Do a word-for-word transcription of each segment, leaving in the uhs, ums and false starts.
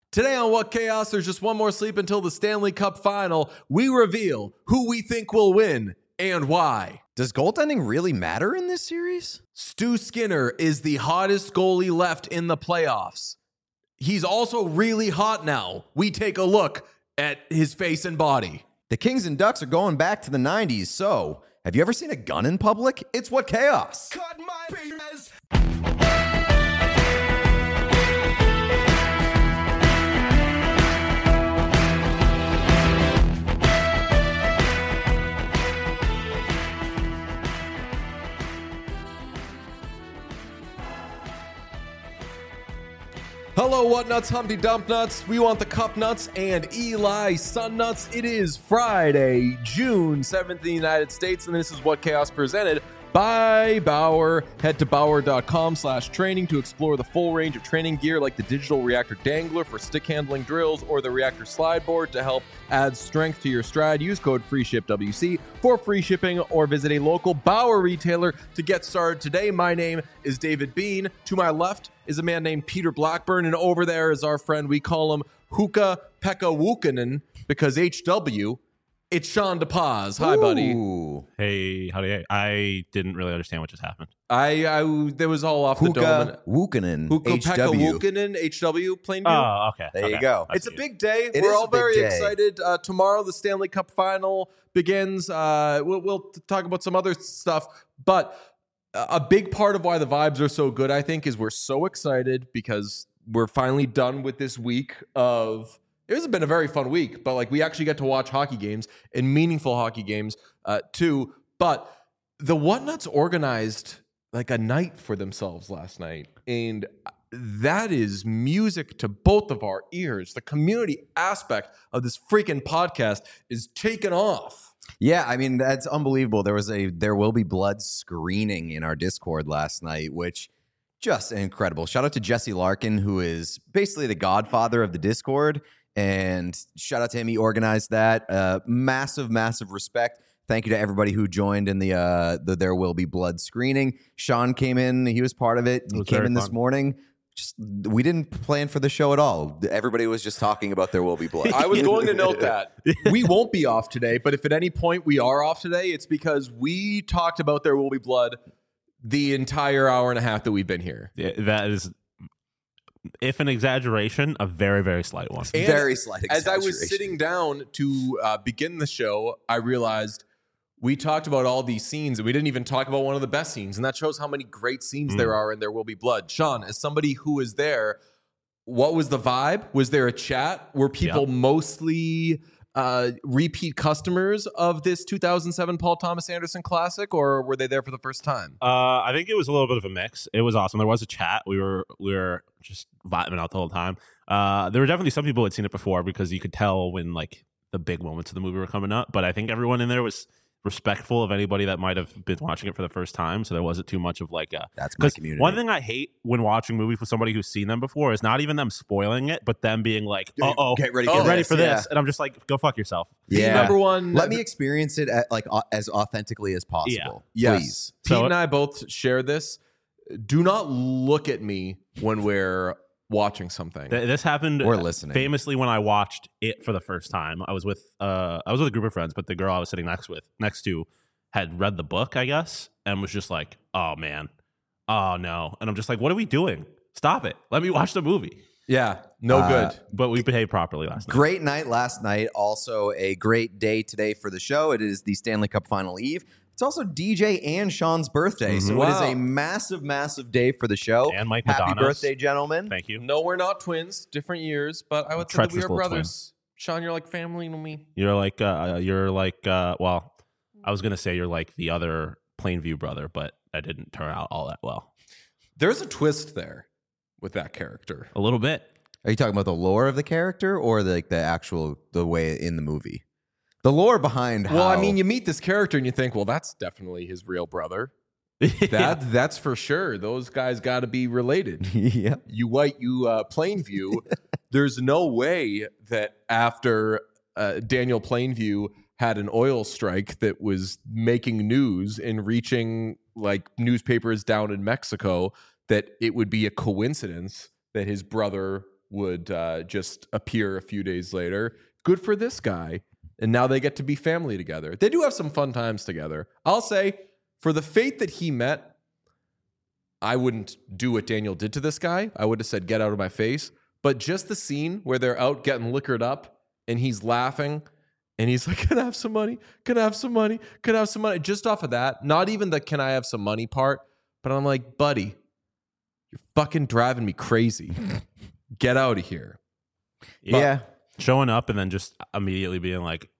Today on What Chaos, there's just one more sleep until the Stanley Cup final. We reveal who we think will win and why. Does goaltending really matter in this series? Stu Skinner is the hottest goalie left in the playoffs. He's also really hot now. We take a look at his face and body. The Kings and Ducks are going back to the nineties, so have you ever seen a gun in public? It's What Chaos. Cut my penis. Hello, What Nuts, Humpty Dump Nuts. We want the Cup Nuts and Eli Sun Nuts. It is Friday, June seventh in the United States, and this is What Chaos presented by Bauer. Head to bauer.com slash training to explore the full range of training gear like the digital reactor dangler for stick handling drills or the reactor slide board to help add strength to your stride. Use code FREESHIPWC for free shipping or visit a local Bauer retailer to get started today. My name is David Bean. To my left is a man named Peter Blackburn, and over there is our friend. We call him Huka-Pekka Wukkanen because H W. It's Sean DePaz. Hi, buddy. Ooh. Hey, how do you? I didn't really understand what just happened. I, I there was all off the dome. Huka Wukkanen, H Huka-Pekka W. Wukkanen, H W, plain view. Oh, okay. There okay. you go. I It's a see. big day. It We're is all a big very day. excited. Uh, tomorrow, the Stanley Cup final begins. Uh, we'll, we'll talk about some other stuff, but a big part of why the vibes are so good, I think, is we're so excited because we're finally done with this week of. It has been a very fun week, but like we actually get to watch hockey games and meaningful hockey games uh, too. But the Whatnuts organized like a night for themselves last night, and that is music to both of our ears. The community aspect of this freaking podcast is taken off. Yeah, I mean, that's unbelievable. There was a There Will Be Blood screening in our Discord last night, which just incredible. Shout out to Jesse Larkin, who is basically the godfather of the Discord. And shout out to him. He organized that. Uh, massive, massive respect. Thank you to everybody who joined in the uh, the There Will Be Blood screening. Sean came in. He was part of it. It He was came very in this fun. morning. Just we didn't plan for the show at all. Everybody was just talking about There Will Be Blood. I was going to note that we won't be off today, but if at any point we are off today, it's because we talked about There Will Be Blood the entire hour and a half that we've been here. Yeah, that is, if an exaggeration, a very, very slight one. And Very slight As I was exaggeration. sitting down to uh, begin the show, I realized we talked about all these scenes and we didn't even talk about one of the best scenes. And that shows how many great scenes Mm. there are in There Will Be Blood. Sean, as somebody who was there, what was the vibe? Was there a chat? Were people Yep. mostly uh, repeat customers of this two thousand seven Paul Thomas Anderson Classic, or were they there for the first time? Uh, I think it was a little bit of a mix. It was awesome. There was a chat. We were we were just vibing out the whole time. Uh, there were definitely some people who had seen it before because you could tell when like the big moments of the movie were coming up. But I think everyone in there was respectful of anybody that might have been watching it for the first time. So there wasn't too much of like a. That's my 'cause community. one thing I hate when watching movies with somebody who's seen them before is not even them spoiling it, but them being like, "Oh, oh, Get ready for get ready this, for yeah. this," and I'm just like, "Go fuck yourself." The Yeah. number one. Let me experience it at, like au- as authentically as possible. Yes. Please. Pete So- and I both share this. Do not look at me when we're watching something. Th- This happened Or listening. famously when I watched it for the first time. I was with uh, I was with a group of friends, but the girl I was sitting next with next to had read the book, I guess, and was just like, "Oh man, oh no," and I'm just like, "What are we doing? Stop it! Let me watch the movie." Yeah, no Uh, good. But we behaved properly last night. Great night last night. Also a great day today for the show. It is the Stanley Cup Final Eve. It's also D J and Sean's birthday. So Mhm. it is Wow. a massive, massive day for the show. And Mike Happy Madonna's. birthday, gentlemen. Thank you. No, we're not twins. Different years, but I would say that we Treacherous are little brothers. Sean, you're like family to me. You're like uh, you're like uh, well, I was gonna say you're like the other Plainview brother, but that didn't turn out all that well. There's a twist there with that character. A little bit. Are you talking about the lore of the character or the, like the actual the way in the movie? The lore behind how Well, I mean, you meet this character and you think, well, that's definitely his real brother. That that's for sure. Those guys got to be related. yeah. You white, you uh, Plainview. There's no way that after uh, Daniel Plainview had an oil strike that was making news and reaching like newspapers down in Mexico, that it would be a coincidence that his brother would uh, just appear a few days later. Good for this guy. And now they get to be family together. They do have some fun times together. I'll say, for the fate that he met, I wouldn't do what Daniel did to this guy. I would have said, get out of my face. But just the scene where they're out getting liquored up and he's laughing and he's like, can I have some money? Can I have some money? Can I have some money? Just off of that, not even the can I have some money part, but I'm like, buddy, you're fucking driving me crazy. Get out of here. But, yeah. Showing up and then just immediately being like,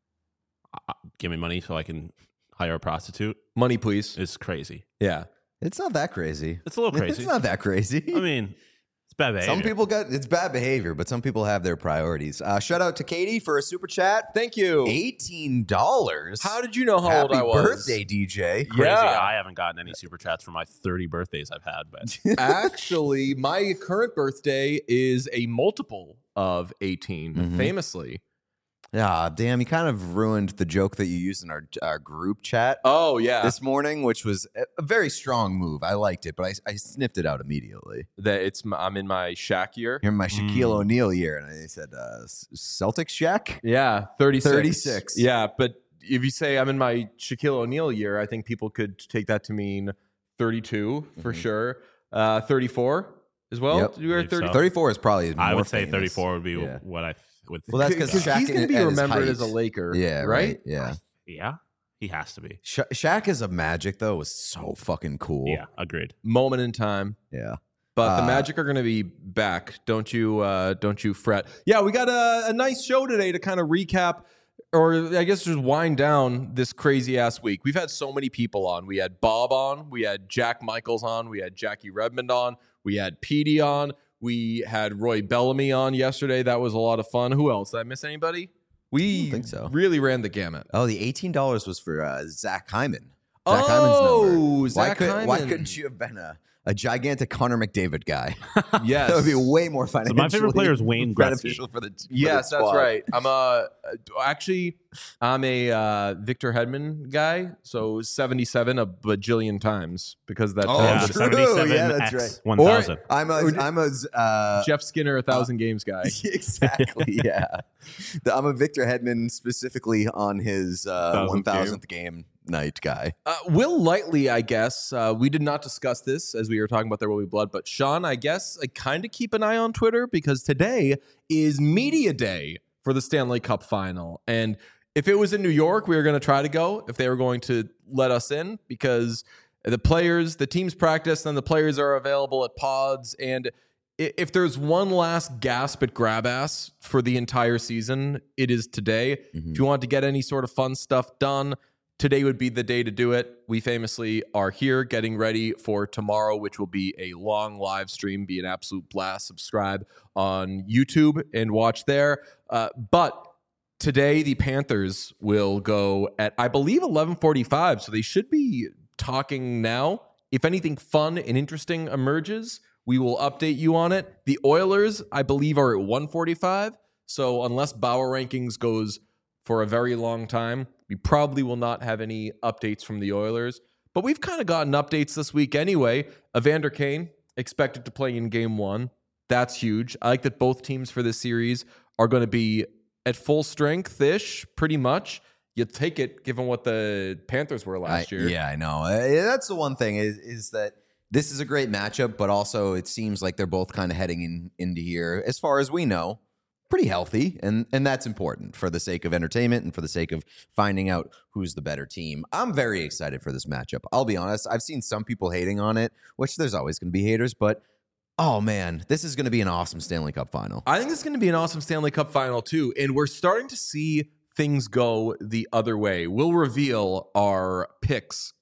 give me money so I can hire a prostitute. Money, please. It's crazy. Yeah. It's not that crazy. It's a little crazy. It's not that crazy. I mean, it's bad behavior. Some people got, it's bad behavior, but some people have their priorities. Uh, shout out to Katie for a super chat. Thank you. eighteen dollars. How did you know how Happy old I was? birthday, D J. Crazy. Yeah. I haven't gotten any super chats for my thirty birthdays I've had, but Actually, my current birthday is a multiple of eighteen, Mhm. famously. Yeah, damn, you kind of ruined the joke that you used in our, our group chat Oh, yeah. this morning, which was a, a very strong move. I liked it, but I, I sniffed it out immediately. that it's m- I'm in my Shaq year. You're in my Shaquille Mm. O'Neal year, and I said, uh, Celtics Shaq? Yeah, thirty-six. thirty-six. Yeah, but if you say I'm in my Shaquille O'Neal year, I think people could take that to mean thirty-two for Mhm. sure. Uh, thirty-four as well. Yep. You were Believe so. thirty. thirty-four is probably I more would say famous. thirty-four would be Yeah. what I would think. Well, that's 'cause Because Shaq he's going to be at his remembered height. as a Laker. Yeah, right. right. Yeah. Yeah, he has to be. Sha Shaq as a Magic, though, was so fucking cool. Yeah, agreed. Moment in time. Yeah. But the Uh, Magic are going to be back. Don't you? Uh, don't you fret. Yeah, we got a, a nice show today to kind of recap, or I guess just wind down this crazy ass week. We've had so many people on. We had Bob on. We had Jack Michaels on. We had Jackie Redmond on. We had Petey on. We had Roy Bellamy on yesterday. That was a lot of fun. Who else? Did I miss anybody? We don't think so. really ran the gamut. Oh, the eighteen dollars was for uh, Zach Hyman. Oh, Zach Hyman's number. Zach why, could, why Hyman. couldn't you have been a, a gigantic Connor McDavid guy? Yes. That would be way more financially my favorite player is Wayne Gretzky. beneficial for the for Yes, the that's squad. right. I'm a actually I'm a uh, Victor Hedman guy. So seventy-seven a bajillion times because that Oh, tells yeah, us- true. seventy-seven Yeah, that's X right. one Or- thousand. I'm a I'm a uh, Jeff Skinner a thousand games guy. exactly yeah. The- I'm a Victor Hedman specifically on his uh, Thousandth one thousandth game night guy. Uh, Will Lightly, I guess. Uh, we did not discuss this as we were talking about There Will Be Blood, but Sean, I guess, I kind of keep an eye on Twitter because today is media day for the Stanley Cup final. And if it was in New York, we were going to try to go if they were going to let us in because the players, the teams practice, and the players are available at pods. And i- if there's one last gasp at grab ass for the entire season, it is today. Mhm. If you want to get any sort of fun stuff done, today would be the day to do it. We famously are here getting ready for tomorrow, which will be a long live stream, be an absolute blast. Subscribe on YouTube and watch there. Uh, but today, the Panthers will go at, I believe, eleven forty-five. So they should be talking now. If anything fun and interesting emerges, we will update you on it. The Oilers, I believe, are at one forty-five. So unless Bauer Rankings goes for a very long time, we probably will not have any updates from the Oilers. But we've kind of gotten updates this week anyway. Evander Kane expected to play in game one. That's huge. I like that both teams for this series are going to be at full strength-ish, pretty much. You take it, given what the Panthers were last I- year. Yeah, I know. Uh, that's the one thing is is that this is a great matchup, but also it seems like they're both kind of heading in into here, as far as we know, pretty healthy, and and that's important for the sake of entertainment and for the sake of finding out who's the better team. I'm very excited for this matchup. I'll be honest. I've seen some people hating on it, which there's always going to be haters, but oh man, this is going to be an awesome Stanley Cup final. I think this is going to be an awesome Stanley Cup final, too. And we're starting to see things go the other way. We'll reveal our picks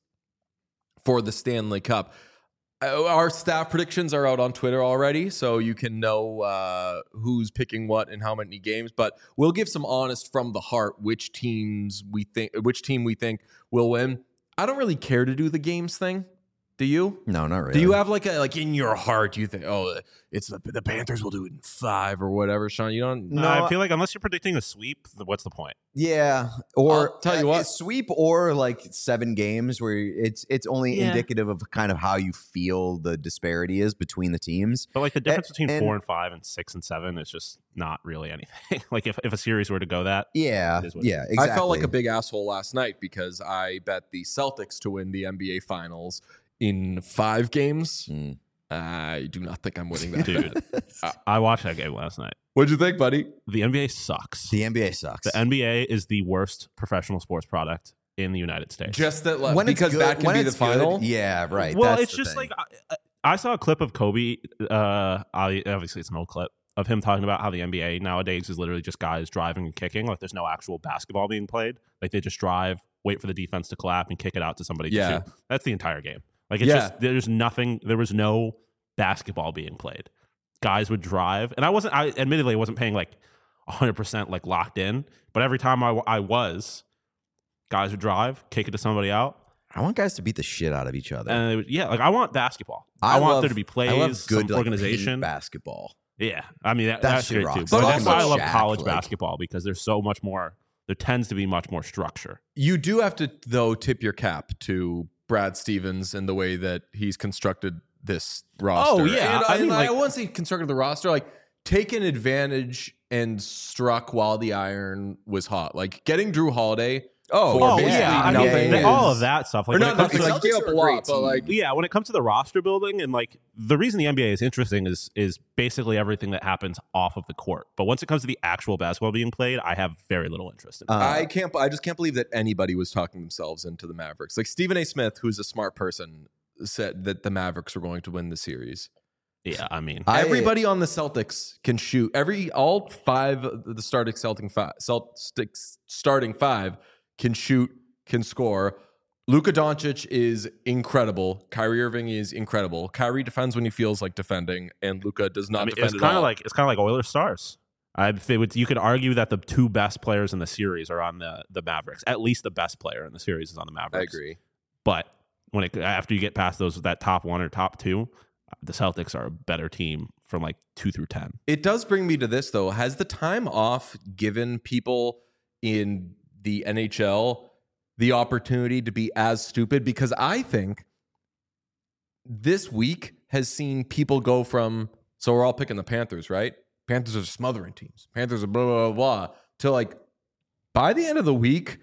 for the Stanley Cup. Uh, Our staff predictions are out on Twitter already, so you can know uh, who's picking what and how many games. But we'll give some honest from the heart which teams we think, which team we think will win. I don't really care to do the games thing Do you? No, not really. Do you have like a like in your heart? You think, oh, it's the the Panthers will do it in five or whatever, Sean? You don't. No, I feel like unless you're predicting a sweep, what's the point? Yeah, or I'll tell you uh, what. sweep or like seven games where it's it's only Yeah. indicative of kind of how you feel the disparity is between the teams. But like the difference And- between and- four and five and six and seven is just not really anything. Like if, if a series were to go that, Yeah, It is what it yeah, exactly. I felt like a big asshole last night because I bet the Celtics to win the N B A Finals in five games. Mm. I do not think I'm winning that. dude, I, I watched that game last night. What'd you think, buddy? The N B A sucks. The N B A sucks. The N B A is the worst professional sports product in the United States. Just that, When it's because good- that can when be the it's good, final. yeah, right. Well, that's it's the just thing. like I, I saw a clip of Kobe. Uh, I, obviously, it's an old clip of him talking about how the N B A nowadays is literally just guys driving and kicking. Like there's no actual basketball being played. Like they just drive, wait for the defense to clap, and kick it out to somebody. Yeah. To shoot. That's the entire game. Like it's Yeah. just there's nothing. There was no basketball being played. Guys would drive, and I wasn't. I admittedly wasn't paying like one hundred percent like locked in, but every time I, I was, guys would drive, kick it to somebody out. I want guys to beat the shit out of each other. And it was, yeah, like I want basketball. I, want love- there to be plays, I love good some like, organization. paint basketball. Yeah, I mean that, That that's shit great rocks. too. But But that's also why I love Shaq, college like- basketball because there's so much more. There tends to be much more structure. You do have to, though, tip your cap to Brad Stevens and the way that he's constructed this roster. Oh, yeah. And, I I, mean, and I like- won't say constructed the roster, like taken advantage and struck while the iron was hot. Like getting Drew Holiday. Oh, for Oh basically yeah, I mean nothing the- is- all of that stuff. Like Or when not it comes nothing, to like, the gave Celtics up are a a lot, great but team. like yeah, when it comes to the roster building and like the reason the N B A is interesting is is basically everything that happens off of the court. But once it comes to the actual basketball being played, I have very little interest in it. Uh, I can't. I just can't believe that anybody was talking themselves into the Mavericks. Like Stephen A. Smith, who's a smart person, said that the Mavericks were going to win the series. yeah, I mean, I- Everybody on the Celtics can shoot. Every all five of the starting Celtic five, Celtics starting five can shoot, can score. Luka Doncic is incredible. Kyrie Irving is incredible. Kyrie defends when he feels like defending, and Luka does not I mean defend it's at kind all. of like it's kind of like Oilers Stars. I they would, you could argue that the two best players in the series are on the the Mavericks. At least the best player in the series is on the I Mavericks. agree. But when it after you get past those that top one or top two, the Celtics are a better team from like two through ten. It does bring me to this though. Has the time off given people in the N H L the opportunity to be as stupid? Because I think this week has seen people go from, so we're all picking the Panthers, right? Panthers are smothering teams. Panthers are blah, blah, blah, blah. To like, by the end of the week,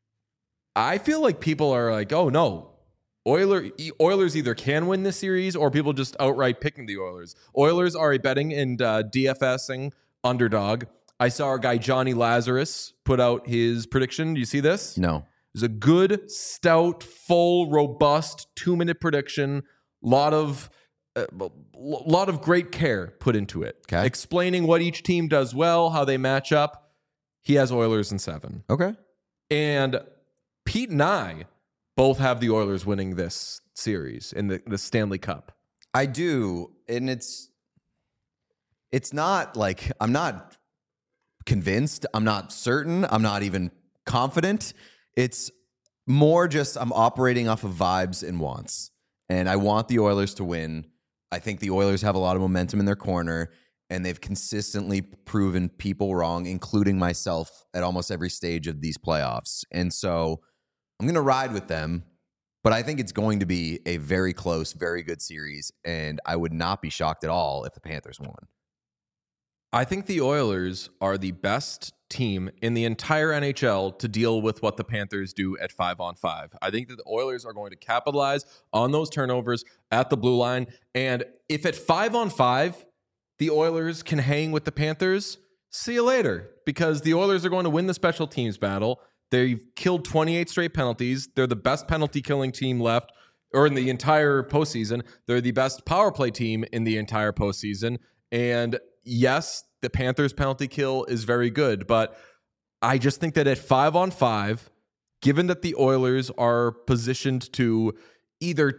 I feel like people are like, oh no, Oiler, Oilers either can win this series or people just outright picking the Oilers. Oilers are a betting and uh, DFSing underdog. I saw our guy Johnny Lazarus put out his prediction. Do you see this? no. It was a good, stout, full, robust two-minute prediction. Lot of, uh, lot of great care put into it. Okay. Explaining what each team does well, how they match up. He has Oilers in seven. Okay. And Pete and I both have the Oilers winning this series in the, the Stanley Cup. I do, and it's it's not like I'm not convinced. I'm not certain. I'm not even confident. It's more just I'm operating off of vibes and wants, and I want the Oilers to win. I think the Oilers have a lot of momentum in their corner, and they've consistently proven people wrong, including myself, at almost every stage of these playoffs. And so I'm going to ride with them, but I think it's going to be a very close, very good series, and I would not be shocked at all if the Panthers won. I think the Oilers are the best team in the entire N H L to deal with what the Panthers do at five on five. I think that the Oilers are going to capitalize on those turnovers at the blue line. And if at five on five, the Oilers can hang with the Panthers, see you later, because the Oilers are going to win the special teams battle. They've killed twenty-eight straight penalties. They're the best penalty killing team left, or in the entire postseason. They're the best power play team in the entire postseason. And yes, the Panthers penalty kill is very good, but I just think that at five on five, given that the Oilers are positioned to either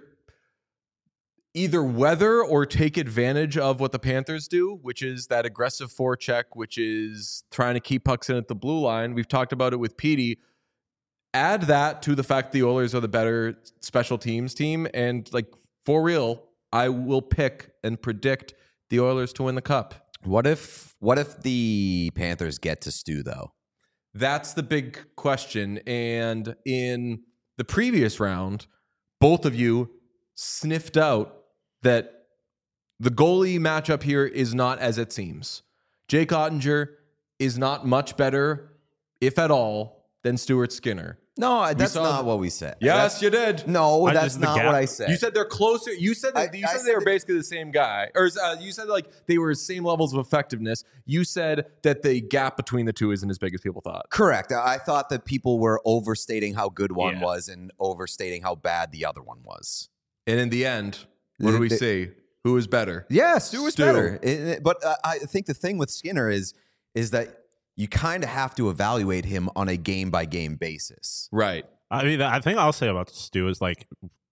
either weather or take advantage of what the Panthers do, which is that aggressive forecheck, which is trying to keep pucks in at the blue line. We've talked about it with Petey. Add that to the fact the Oilers are the better special teams team, and like for real, I will pick and predict the Oilers to win the cup. What if what if the Panthers get to Stu though? That's the big question. And in the previous round, both of you sniffed out that the goalie matchup here is not as it seems. Jake Ottinger is not much better, if at all, than Stuart Skinner. No, that's saw not the- what we said. Yes, That's- you did. No, I that's just- the not gap- what I said. You said they're closer. You said that, I- you I said said they were that- basically the same guy, or uh, you said like they were same levels of effectiveness. You said that the gap between the two isn't as big as people thought. Correct. I thought that people were overstating how good one Yeah. was and overstating how bad the other one was. And in the end, what do we The- see? Who is better? Yeah, Stu was Stu. better. It- it- but uh, I think the thing with Skinner is is that you kind of have to evaluate him on a game by game basis. Right. I mean, I think I'll say about Stu is like,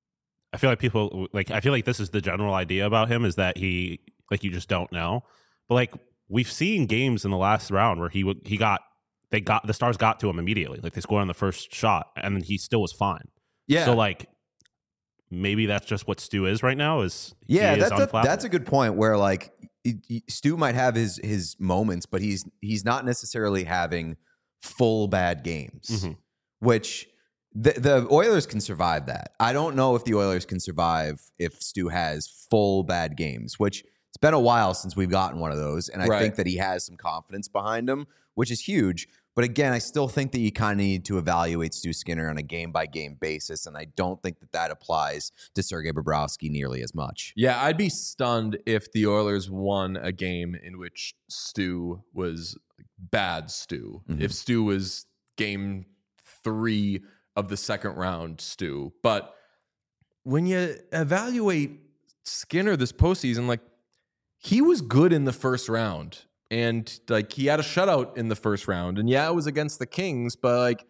I feel like people like, I feel like this is the general idea about him is that he, like, you just don't know. But like, we've seen games in the last round where he would, he got, they got, the Stars got to him immediately. Like, they scored on the first shot and he still was fine. Yeah. So, like, maybe that's just what Stu is right now is, Yeah, he is that's a, unflappable. that's a good point where like y- y- Stu might have his his moments, but he's he's not necessarily having full bad games, Mhm. which the, the Oilers can survive that. I don't know if the Oilers can survive if Stu has full bad games, which it's been a while since we've gotten one of those. And I Right. think that he has some confidence behind him, which is huge. But again, I still think that you kind of need to evaluate Stu Skinner on a game by game basis. And I don't think that that applies to Sergei Bobrovsky nearly as much. Yeah, I'd be stunned if the Oilers won a game in which Stu was bad Stu. Mhm. If Stu was game three of the second round Stu. But when you evaluate Skinner this postseason, like he was good in the first round. And like he had a shutout in the first round. And yeah, it was against the Kings, but like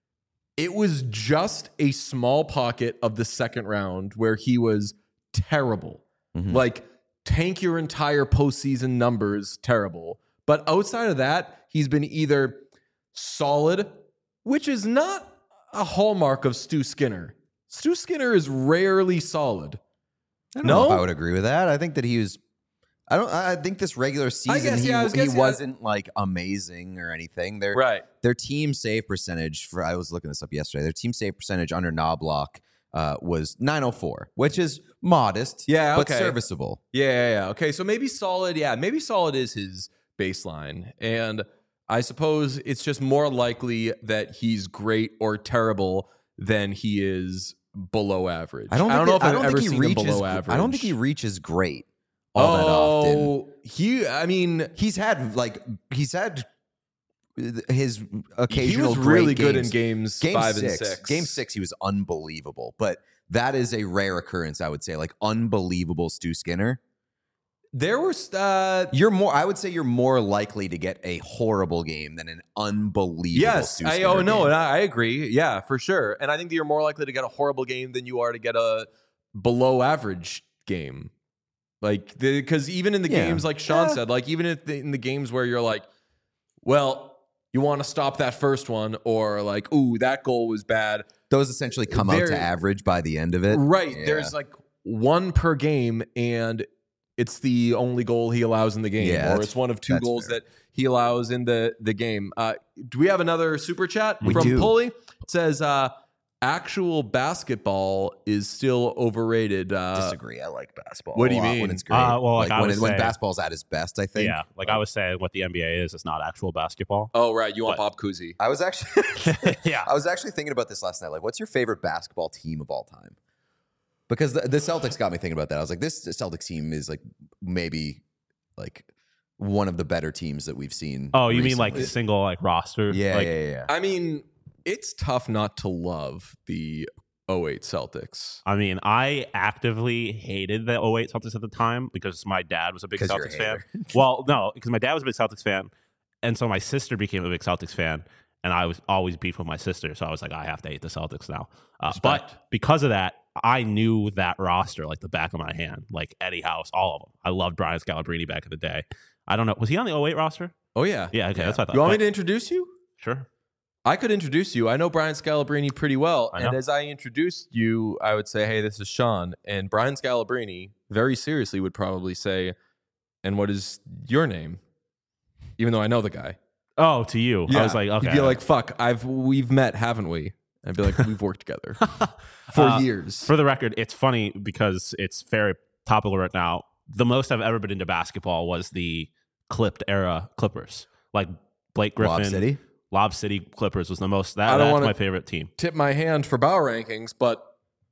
it was just a small pocket of the second round where he was terrible. Mhm. Like tank your entire postseason numbers, terrible. But outside of that, he's been either solid, which is not a hallmark of Stu Skinner. Stu Skinner is rarely solid. I don't No? know if I would agree with that. I think that he was. I don't. I think this regular season guess, he, yeah, I was he guessing- wasn't like amazing or anything. Their Right. their team save percentage for I was looking this up yesterday. Their team save percentage under Knobloch uh, was nine oh four, which is modest, Yeah, but okay. serviceable. Yeah, yeah, yeah. Okay, so maybe solid. Yeah, maybe solid is his baseline. And I suppose it's just more likely that he's great or terrible than he is below average. I don't. Think I don't know it- if I I've don't ever think he seen him reaches. below average. I don't think he reaches great all that often. Oh, he. I mean, He's had like he's had his he occasional. was really great good games. in games Game five six, and six. Game six, he was unbelievable. But that is a rare occurrence, I would say. Like unbelievable Stu Skinner. There were. Uh, You're more. I would say you're more likely to get a horrible game than an unbelievable. yes. Stu I, Skinner oh no, game. and I, I agree. Yeah, for sure. And I think that you're more likely to get a horrible game than you are to get a below average game. Like, because even in the Yeah. games, like Sean Yeah. said, like even if the, in the games where you're like, well, you want to stop that first one, or like, ooh, that goal was bad. Those essentially come out There- to average by the end of it. Right. Yeah. There's like one per game, and it's the only goal he allows in the game, Yeah, or that's- it's one of two that's goals fair. that he allows in the the game. Uh, do we have another super chat We from do. Pulley? It says, uh, actual basketball is still overrated. Uh, Disagree. I like basketball. what do a you lot mean? When it's great. Uh, well, like I when, would it, when say- basketball's at its best, I think. Yeah, like I was saying, what the N B A is, it's not actual basketball. oh, right. You want What? Bob Cousy. I was actually. Yeah. I was actually thinking about this last night. Like, what's your favorite basketball team of all time? Because the, the Celtics got me thinking about that. I was like, this Celtics team is like maybe like one of the better teams that we've seen. Oh, you mean like recently. single like roster? Yeah, Like, yeah, yeah, yeah. I mean, it's tough not to love the oh eight Celtics. I mean, I actively hated the oh eight Celtics at the time because my dad was a big 'Cause you're a Celtics fan. hater. Well, no, because my dad was a big Celtics fan, and so my sister became a big Celtics fan, and I was always beef with my sister, so I was like, I have to hate the Celtics now. Uh, Respect. but because of that, I knew that roster like the back of my hand, like Eddie House, all of them. I loved Brian Scalabrine back in the day. I don't know, was he on the oh eight roster? Oh, yeah. Yeah, okay, that's what I thought. You want me But- to introduce you? Sure. I could introduce you. I know Brian Scalabrine pretty well. I And know. as I introduced you, I would say, hey, this is Sean. And Brian Scalabrine very seriously would probably say, and what is your name? Even though I know the guy. Oh, to you. I was like, okay. You'd be like, fuck, I've we've met, haven't we? I'd be like, we've worked together for Uh, years. For the record, it's funny because it's very topical right now. The most I've ever been into basketball was the clipped era Clippers. Like Blake Griffin. Lob City? Lob City Clippers was the most. That, I don't that's wanna- my favorite team. Tip my hand for Bauer rankings, but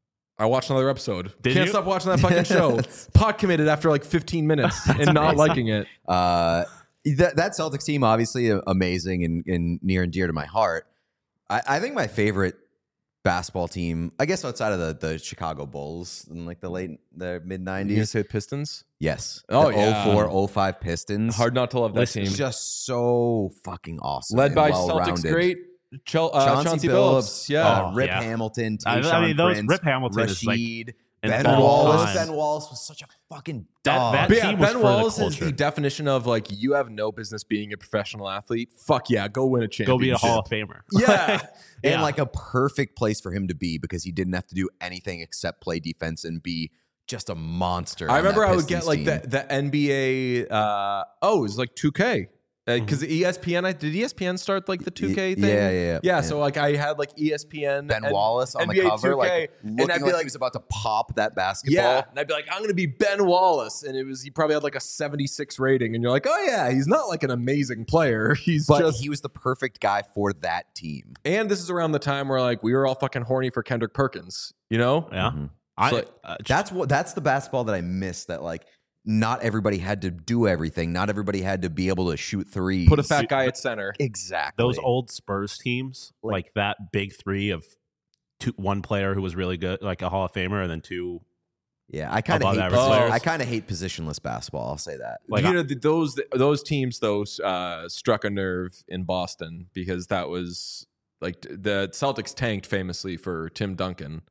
I watched another episode. Did Can't you? stop watching that fucking show. Pot committed after like fifteen minutes and not liking it. Uh, that, that Celtics team, obviously uh, amazing and, and near and dear to my heart. I, I think my favorite basketball team, I guess outside of the, the Chicago Bulls in like the late, the mid You gonna nineties. say Pistons? Yes. Oh, the yeah. oh four oh five Pistons. Hard not to love that Listen, team. Just so fucking awesome. Led and by well-rounded. Celtics great Chel- uh, Chauncey, Chauncey, Billups, Billups. Yeah. uh, Rip yeah. Hamilton, I, Tayshaun I mean, those Prince, Rip Hamilton is like Rashid, an Ben all Wallace. time. Ben Wallace was such a fucking That- dog. that But yeah, team was Ben for the Wallace is culture. the definition of like, you have no business being a professional athlete. Fuck yeah, go win a Go championship. be a Hall of Famer. Yeah. And Yeah. like a perfect place for him to be because he didn't have to do anything except play defense and be just a monster. I on remember that I would get Pistons like team. the, the N B A, uh, oh, it was like two K. Because E S P N, I, did E S P N start like the two K Y- thing? yeah, yeah, yeah. Yeah, Yeah. so like I had like E S P N. Ben and Wallace on N B A the cover, two K, like and looking I'd be like, like, he was about to pop that basketball. yeah, and I'd be like, I'm gonna be Ben Wallace, and it was he probably had like a seventy-six rating, and you're like, oh yeah, he's not like an amazing player, he's But just. he was the perfect guy for that team. And this is around the time where like we were all fucking horny for Kendrick Perkins, you know? Yeah. Mhm. I, So, uh, That's what that's the basketball that I miss. That like not everybody had to do everything. Not everybody had to be able to shoot threes. Put a fat guy at center. exactly those old Spurs teams, Like- like, that big three of two, one player who was really good, like a Hall of Famer, and then two. Yeah, I kind of above hate. average posi- players. I kind of hate positionless basketball. I'll say that. Like, you know, th- those those teams though uh, struck a nerve in Boston because that was like t- the Celtics tanked famously for Tim Duncan,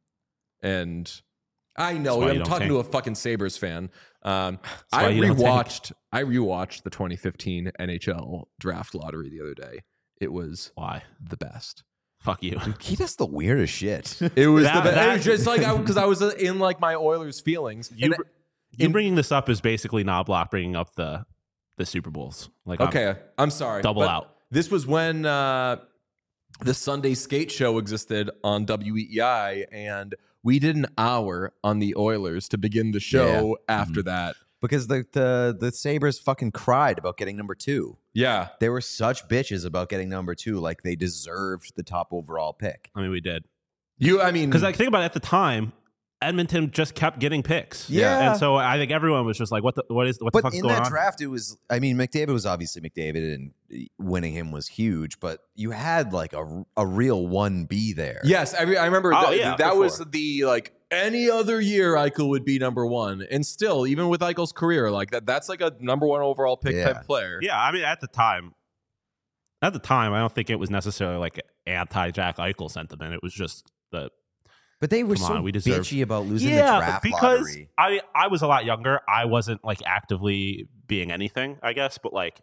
and I know why you I'm don't talking tank. to a fucking Sabres fan. Um, why I you don't tank. rewatched I rewatched the twenty fifteen N H L draft lottery the other day. It was Why? the best. Fuck you. He does the weirdest shit. It was That- the best. that- It was just like because I, was uh, in like my Oilers feelings. You, And- br- you in- bringing this up is basically Knobloch bringing up the the Super Bowls. Like, I'm- Okay, I'm sorry. Double but out. This was when uh, the Sunday Skate Show existed on W E E I, and we did an hour on the Oilers to begin the show after that. because the, the the Sabres fucking cried about getting number two. Yeah. They were such bitches about getting number two, like they deserved the top overall pick. I mean, we did. You, I mean, Because like, think about it, at the time, Edmonton just kept getting picks. Yeah. And so I think everyone was just like, what the what is what the But fuck's in going that on? draft, it was, I mean, McDavid was obviously McDavid, and winning him was huge, but you had like a, a real one B there. yes, I, re- I remember Oh, that, yeah, that for was sure. the like any other year Eichel would be number one, and still, even with Eichel's career, like that, that's like a number one overall pick Yeah. type player. Yeah, I mean, at the time, at the time, I don't think it was necessarily like anti Jack Eichel sentiment. It was just the But they were Come so on, we deserve- bitchy about losing the yeah, draft because lottery. I I was a lot younger. I wasn't like actively being anything, I guess, but like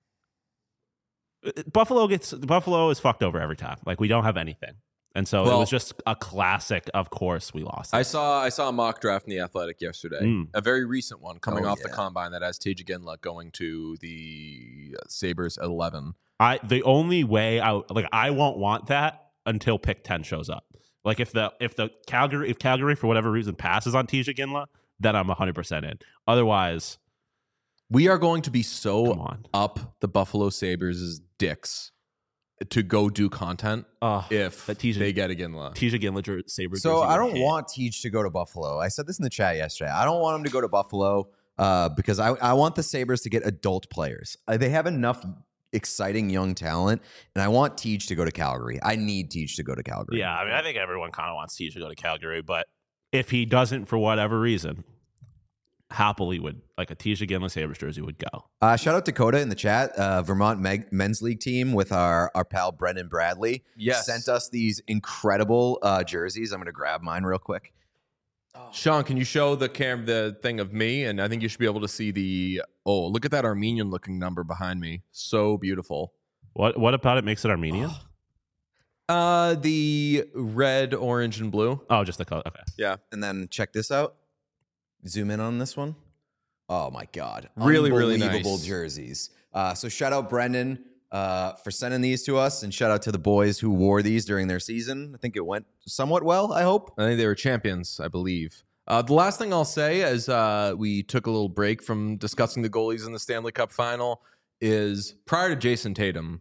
Buffalo gets Buffalo is fucked over every time. Like we don't have anything, and so it Well- was just a classic. Of course, we lost. I saw I saw a mock draft in the Athletic yesterday, Mm. a very recent one coming Oh, off the yeah. combine that has Tage Ginla going to the Sabres at eleven. I the only way I like I won't want that until pick ten shows up. Like if the if the Calgary if Calgary for whatever reason passes on Tisha Ginla, then I'm one hundred percent in. Otherwise, We are going to be come so on. up the Buffalo Sabres' dicks to go do content Uh, if that Tisha- they get a Ginla. Tisha Ginla jer- Sabre So jersey I would don't hit. want Teach to go to Buffalo. I said this in the chat yesterday. I don't want him to go to Buffalo uh, because I, I want the Sabres to get adult players. Uh, they have enough exciting young talent, and I want Teach to go to Calgary. I need Teach to go to Calgary. Yeah, I mean, I think everyone kind of wants Tisha to go to Calgary, but if he doesn't for whatever reason, happily would like a Tisha Ginla Sabres jersey would go. Uh, shout out Dakota in the chat. Uh, Vermont Meg- men's league team with our, our pal Brendan Bradley Yes. sent us these incredible uh, jerseys. I'm going to grab mine real quick. Sean, can you show the cam the thing of me? And I think you should be able to see the oh, look at that Armenian looking number behind me. So beautiful. What what about it makes it Armenian? Uh, the red, orange, and blue. Oh, just the color. Okay. Yeah. And then check this out. Zoom in on this one. Oh my God. Really, really Unbelievable nice. jerseys. Uh, so shout out Brendan uh, for sending these to us, and shout out to the boys who wore these during their season. I think it went somewhat well, I hope. I think they were champions, I believe. Uh, the last thing I'll say as uh, we took a little break from discussing the goalies in the Stanley Cup final is prior to Jason Tatum,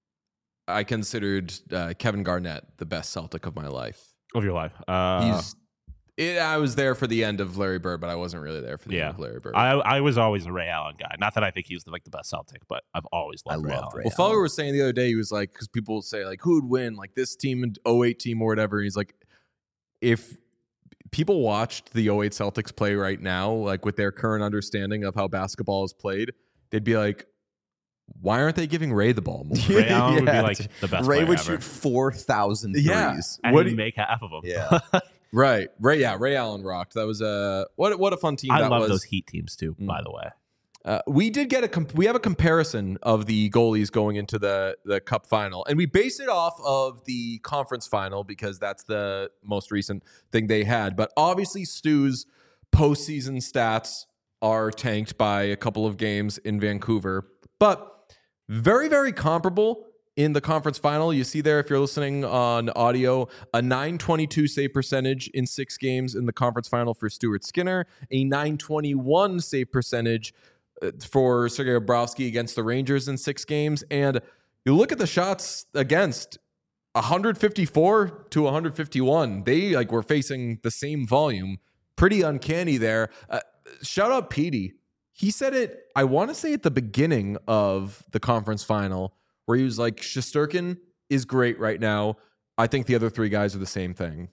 I considered uh, Kevin Garnett the best Celtic of my life. Of your life. Uh, He's. It, I was there for the end of Larry Bird, but I wasn't really there for the Yeah. end of Larry Bird. I I was always a Ray Allen guy. Not that I think he was like the best Celtic, but I've always loved I Ray love Allen. Ray Well, Felger was saying the other day, he was like, because people say, like, who would win, like this team and oh eight team or whatever. And he's like, if people watched the oh eight Celtics play right now, like with their current understanding of how basketball is played, they'd be like, why aren't they giving Ray the ball more? Ray Allen would be Yeah. like the best Ray player would ever. shoot four thousand threes. Yeah. And What he'd do- make half of them. Yeah. Right. Ray, yeah, Ray Allen rocked. That was a, what, what a fun team I that love was. those Heat teams too, Mm. by the way. Uh, we did get a comp- we have a comparison of the goalies going into the the cup final, and we base it off of the conference final because that's the most recent thing they had. But obviously, Stu's postseason stats are tanked by a couple of games in Vancouver, but very very comparable in the conference final. You see there, if you're listening on audio, a nine twenty-two save percentage in six games in the conference final for Stuart Skinner, a nine twenty-one save percentage uh, for Sergei Bobrovsky against the Rangers in six games. And you look at the shots against, one fifty-four to one fifty-one. They like were facing the same volume. Pretty uncanny there. Uh, shout out Petey. He said it, I want to say at the beginning of the conference final, where he was like, Shesterkin is great right now. I think the other three guys are the same thing.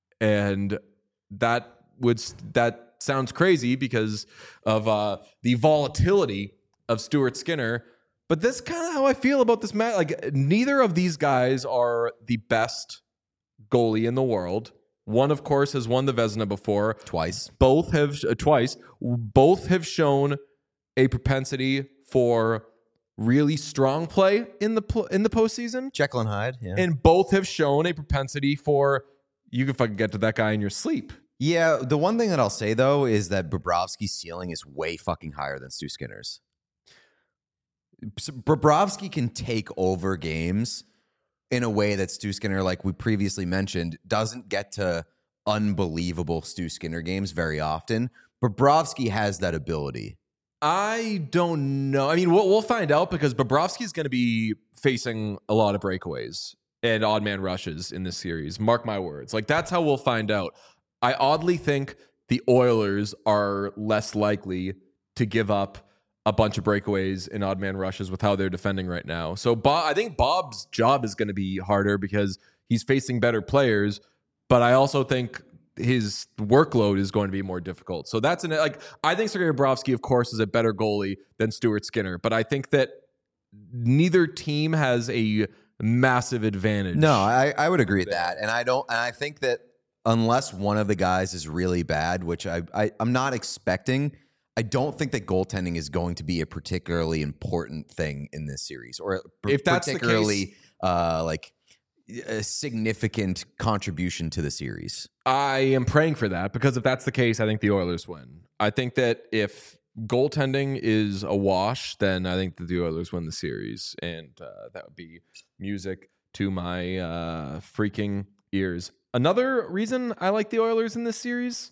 And that would that sounds crazy because of uh, the volatility of Stuart Skinner. But that's kind of how I feel about this match. Like, neither of these guys are the best goalie in the world. One, of course, has won the Vezina before. Twice. Both have, uh, twice, both have shown a propensity for really strong play in the pl- in the postseason, Jekyll and Hyde. Yeah. and both have shown a propensity for you can fucking get to that guy in your sleep. yeah. The one thing that I'll say though is that Bobrovsky's ceiling is way fucking higher than Stu Skinner's. So Bobrovsky can take over games in a way that Stu Skinner, like we previously mentioned, doesn't get to unbelievable Stu Skinner games very often. Bobrovsky has that ability. I don't know. I mean, we'll, we'll find out because Bobrovsky's going to be facing a lot of breakaways and odd man rushes in this series. Mark my words. Like, that's how we'll find out. I oddly think the Oilers are less likely to give up a bunch of breakaways and odd man rushes with how they're defending right now. So Bob, I think Bob's job is going to be harder because he's facing better players, but I also think his workload is going to be more difficult. So that's an, like, I think Sergei Bobrovsky, of course, is a better goalie than Stuart Skinner, but I think that neither team has a massive advantage. No, I, I would agree with that. And I don't, and I think that unless one of the guys is really bad, which I, I I'm not expecting, I don't think that goaltending is going to be a particularly important thing in this series, or p- If that's the particularly case- uh, like a significant contribution to the series. I am praying for that because if that's the case, I think the Oilers win. I think that if goaltending is a wash, then I think that the Oilers win the series, and uh, that would be music to my uh, freaking ears. Another reason I like the Oilers in this series,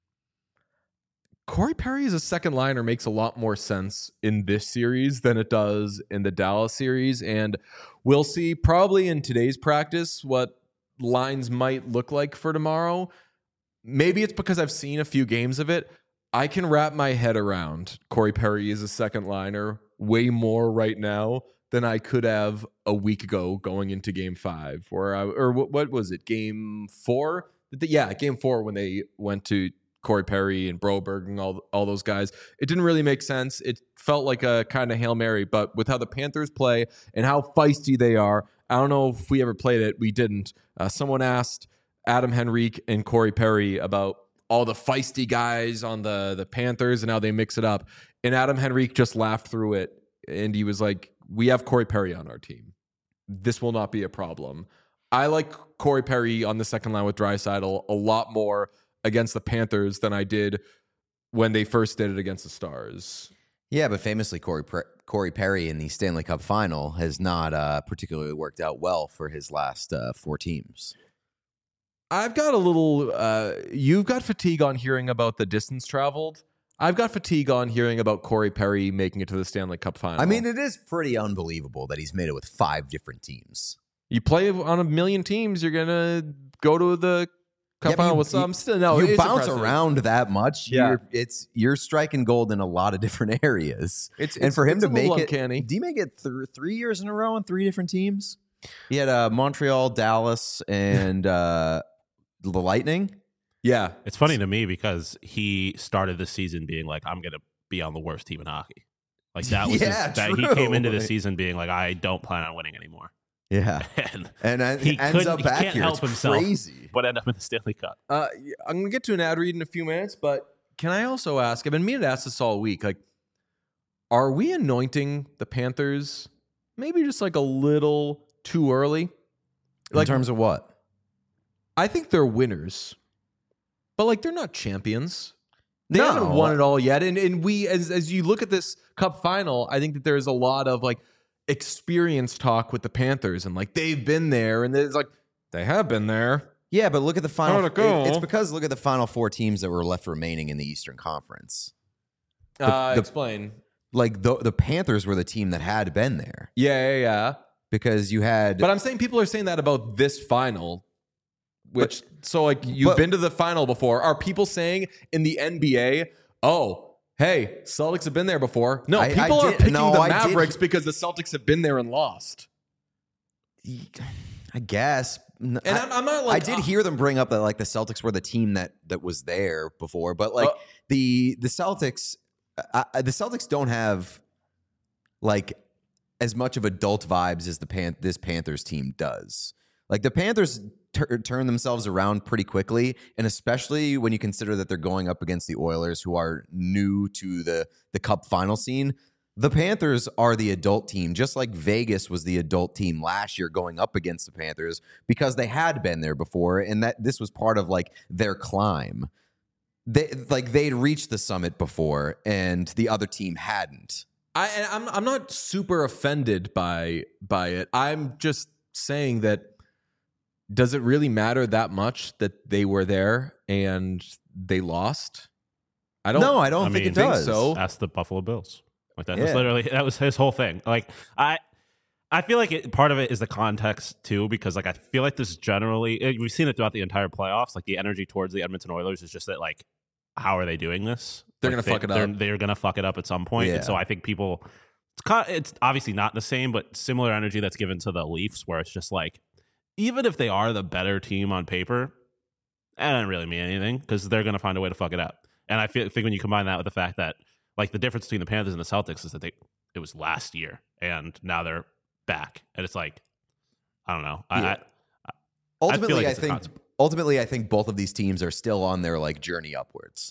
Corey Perry as a second liner makes a lot more sense in this series than it does in the Dallas series, and we'll see probably in today's practice what lines might look like for tomorrow. Maybe it's because I've seen a few games of it. I can wrap my head around Corey Perry as a second liner way more right now than I could have a week ago going into game five, where I, or what, what was it? Game four? Yeah, game four when they went to Corey Perry and Broberg and all, all those guys. It didn't really make sense. It felt like a kind of Hail Mary, but with how the Panthers play and how feisty they are, I don't know if we ever played it. We didn't. Uh, someone asked Adam Henrique and Corey Perry about all the feisty guys on the, the Panthers and how they mix it up. And Adam Henrique just laughed through it. And he was like, we have Corey Perry on our team. This will not be a problem. I like Corey Perry on the second line with Draisaitl a lot more against the Panthers than I did when they first did it against the Stars. Yeah, but famously, Corey Corey Perry in the Stanley Cup Final has not uh, particularly worked out well for his last uh, four teams. I've got a little. Uh, you've got fatigue on hearing about the distance traveled. I've got fatigue on hearing about Corey Perry making it to the Stanley Cup Final. I mean, it is pretty unbelievable that he's made it with five different teams. You play on a million teams, you're gonna go to the Cup Yeah, but Final you- with some. you- Still, no, you it's bounce impressive. around that much. Yeah. You're, it's you're striking gold in a lot of different areas. It's, and it's- for him it's to a little make it, uncanny. did he make it th- three years in a row on three different teams? He had uh, Montreal, Dallas, and uh, the Lightning. Yeah, It's funny to me because he started the season being like, I'm going to be on the worst team in hockey. Like that was Yeah, his, that he true. came into the season being like, I don't plan on winning anymore. Yeah, And and uh, He ends couldn't- up he back can't here. help It's himself. crazy. but end up in the Stanley Cup. Uh, I'm going to get to an ad read in a few minutes, but can I also ask? I've been meaning to ask this all week. Like, are we anointing the Panthers maybe just like a little too early? In terms of what? I think they're winners, but like they're not champions. They No. haven't won it all yet. And and we, as as you look at this Cup Final, I think that there's a lot of like experience talk with the Panthers, and like they've been there, and it's like they have been there. Yeah, but look at the final. How'd it go? It's because look at the final four teams that were left remaining in the Eastern Conference. uh, the- explain. Like the the Panthers were the team that had been there Yeah, yeah, yeah. because you had. But I'm saying people are saying that about this final, which so like you've but- been to the final before. Are people saying in the N B A, oh, hey, Celtics have been there before? No, I- I people are did- picking no, the I did- Mavericks because the Celtics have been there and lost. I guess. And I, I'm, I'm not like I did uh, hear them bring up that like the Celtics were the team that that was there before, but like Uh, the the Celtics, uh, uh, the Celtics don't have like as much of adult vibes as the Pan- this Panthers team does. Like the Panthers tur turn themselves around pretty quickly, and especially when you consider that they're going up against the Oilers, who are new to the the Cup final scene. The Panthers are the adult team, just like Vegas was the adult team last year going up against the Panthers because they had been there before, and that this was part of like their climb. They like they'd reached the summit before, and the other team hadn't. I and I'm I'm not super offended by by it. I'm just saying that does it really matter that much that they were there and they lost? I don't No, I don't I think mean, it does. so. That's the Buffalo Bills. Like that Yeah. was literally that was his whole thing. Like I, I feel like it, part of it is the context too, because like I feel like this generally it, we've seen it throughout the entire playoffs. Like the energy towards the Edmonton Oilers is just that like, how are they doing this? They're Like, gonna fuck it they're, up. They're gonna fuck it up at some point. Yeah. And so I think people, it's kind, it's obviously not the same, but similar energy that's given to the Leafs, where it's just like, even if they are the better team on paper, that doesn't really mean anything because they're gonna find a way to fuck it up. And I feel, think when you combine that with the fact that like the difference between the Panthers and the Celtics is that they it was last year and now they're back, and it's like I don't know. I, Yeah. I, Ultimately, like I, it's a think concept. ultimately I think both of these teams are still on their like journey upwards.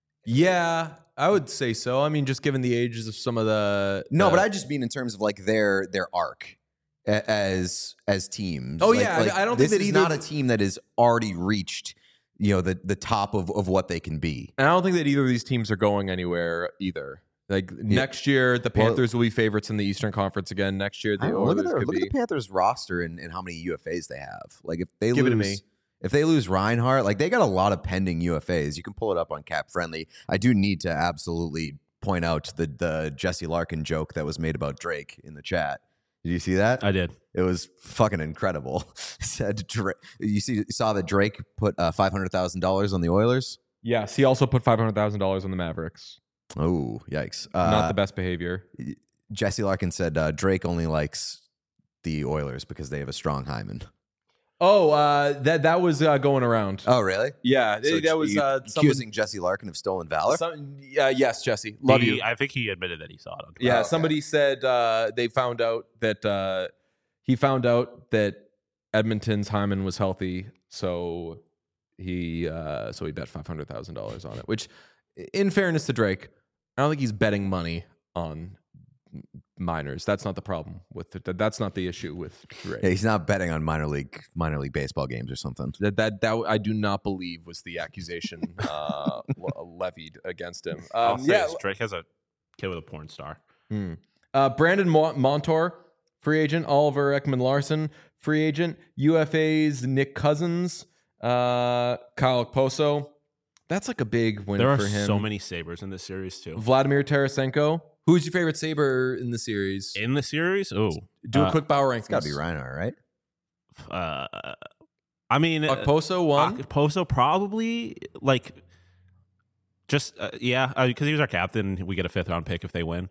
Yeah, I would say so. I mean, just given the ages of some of the No, the- but I just mean in terms of like their their arc a- as as teams. Oh, Like- yeah, I- like, I don't this think that is either- not a team that has already reached you know the the top of of what they can be. and I don't think that either of these teams are going anywhere either. Like next year, the Well- Panthers will be favorites in the Eastern Conference again. Next year, I the don't know, look at Oilers their, could look be. at the Panthers roster and, and how many U F As they have. Like if they Give it to lose, me. if they lose Reinhardt, like they got a lot of pending U F As. You can pull it up on Cap Friendly. I do need to absolutely point out the the Jesse Larkin joke that was made about Drake in the chat. Did you see that? I did. It was fucking incredible. Said Drake, you see, you saw that Drake put uh, five hundred thousand dollars on the Oilers. Yes, he also put five hundred thousand dollars on the Mavericks. Oh, yikes! Uh, Not the best behavior. Jesse Larkin said uh, Drake only likes the Oilers because they have a strong hymen. Oh, uh, that that was uh, going around. Oh, really? yeah, So that was you uh, accusing Jesse Larkin of stolen valor. Some, yeah, yes, Jesse, love He- you. I think he admitted that he saw it on Twitter. Yeah, Oh, okay. somebody said uh, they found out that uh, he found out that Edmonton's hymen was healthy, so he uh, so he bet five hundred thousand dollars on it. Which, in fairness to Drake, I don't think he's betting money on minors. That's not the problem with it. That's not the issue with Ray. Yeah, he's not betting on minor league minor league baseball games or something. That that that I do not believe was the accusation uh, levied against him. I'll Um, say yeah, this, Drake has a kid with a porn star. Hmm. Uh, Brandon Mo- Montour, free agent. Oliver Ekman Larson, free agent. U F A's Nick Cousins, uh, Kyle Poso. That's like a big win There for are him. so many Sabres in this series too. Vladimir Tarasenko. Who's your favorite Sabre in the series? In the series, oh, Do a uh, quick Bauer rankings. It's got to be Reinhart, right? uh, I mean, uh, Okposo one. Poso probably like just uh, yeah, because he was our captain. We get a fifth round pick if they win.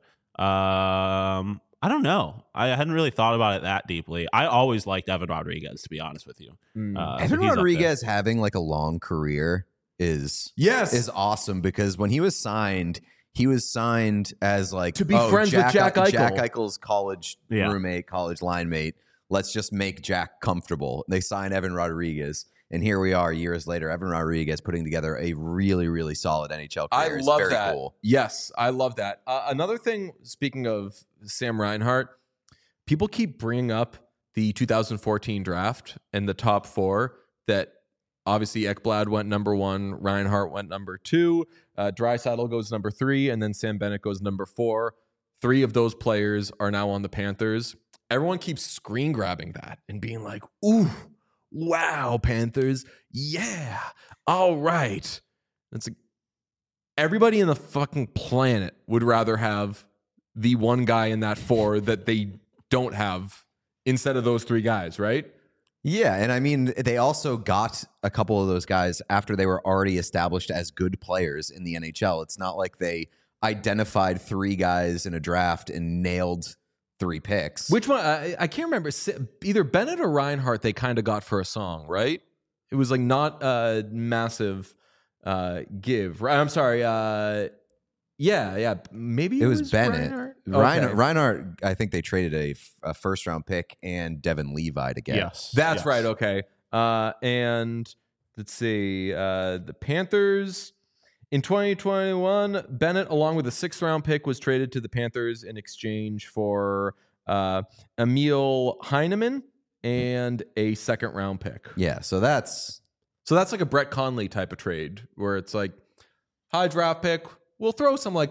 Um, I don't know. I hadn't really thought about it that deeply. I always liked Evan Rodriguez, to be honest with you. Mm. Uh, so Evan he's up there. Rodriguez having like a long career is Yes. is awesome because when he was signed, he was signed as like To be oh, friends with Jack Eichel. Jack Eichel's college Yeah. roommate, college line mate. Let's just make Jack comfortable. They sign Evan Rodriguez, and here we are years later. Evan Rodriguez putting together a really, really solid N H L I career. It's love very that. Cool. Yes, I love that. Uh, another thing, speaking of Sam Reinhart, people keep bringing up the two thousand fourteen draft and the top four that obviously Ekblad went number one, Reinhart went number two, uh, Draisaitl goes number three, and then Sam Bennett goes number four. Three of those players are now on the Panthers. Everyone keeps screen grabbing that and being like, ooh, wow, Panthers. Yeah. All right. It's like everybody in the fucking planet would rather have the one guy in that four that they don't have instead of those three guys, right? Yeah, and I mean, they also got a couple of those guys after they were already established as good players in the N H L. It's not like they identified three guys in a draft and nailed three picks. Which one? I, I can't remember. Either Bennett or Reinhart they kind of got for a song, right? It was like not a massive uh, give. I'm sorry. Uh, yeah, yeah. Maybe it, it was, was Bennett. Reinhart. Reinhart, Okay. Reinhart, I think they traded a, a first round pick and Devin Levi to get. Yes, That's yes. right. Okay. Uh, and let's see. Uh, the Panthers in twenty twenty-one, Bennett, along with a sixth round pick, was traded to the Panthers in exchange for uh, Emil Heineman and a second round pick. Yeah, so that's So that's like a Brett Conley type of trade where it's like high draft pick. We'll throw some like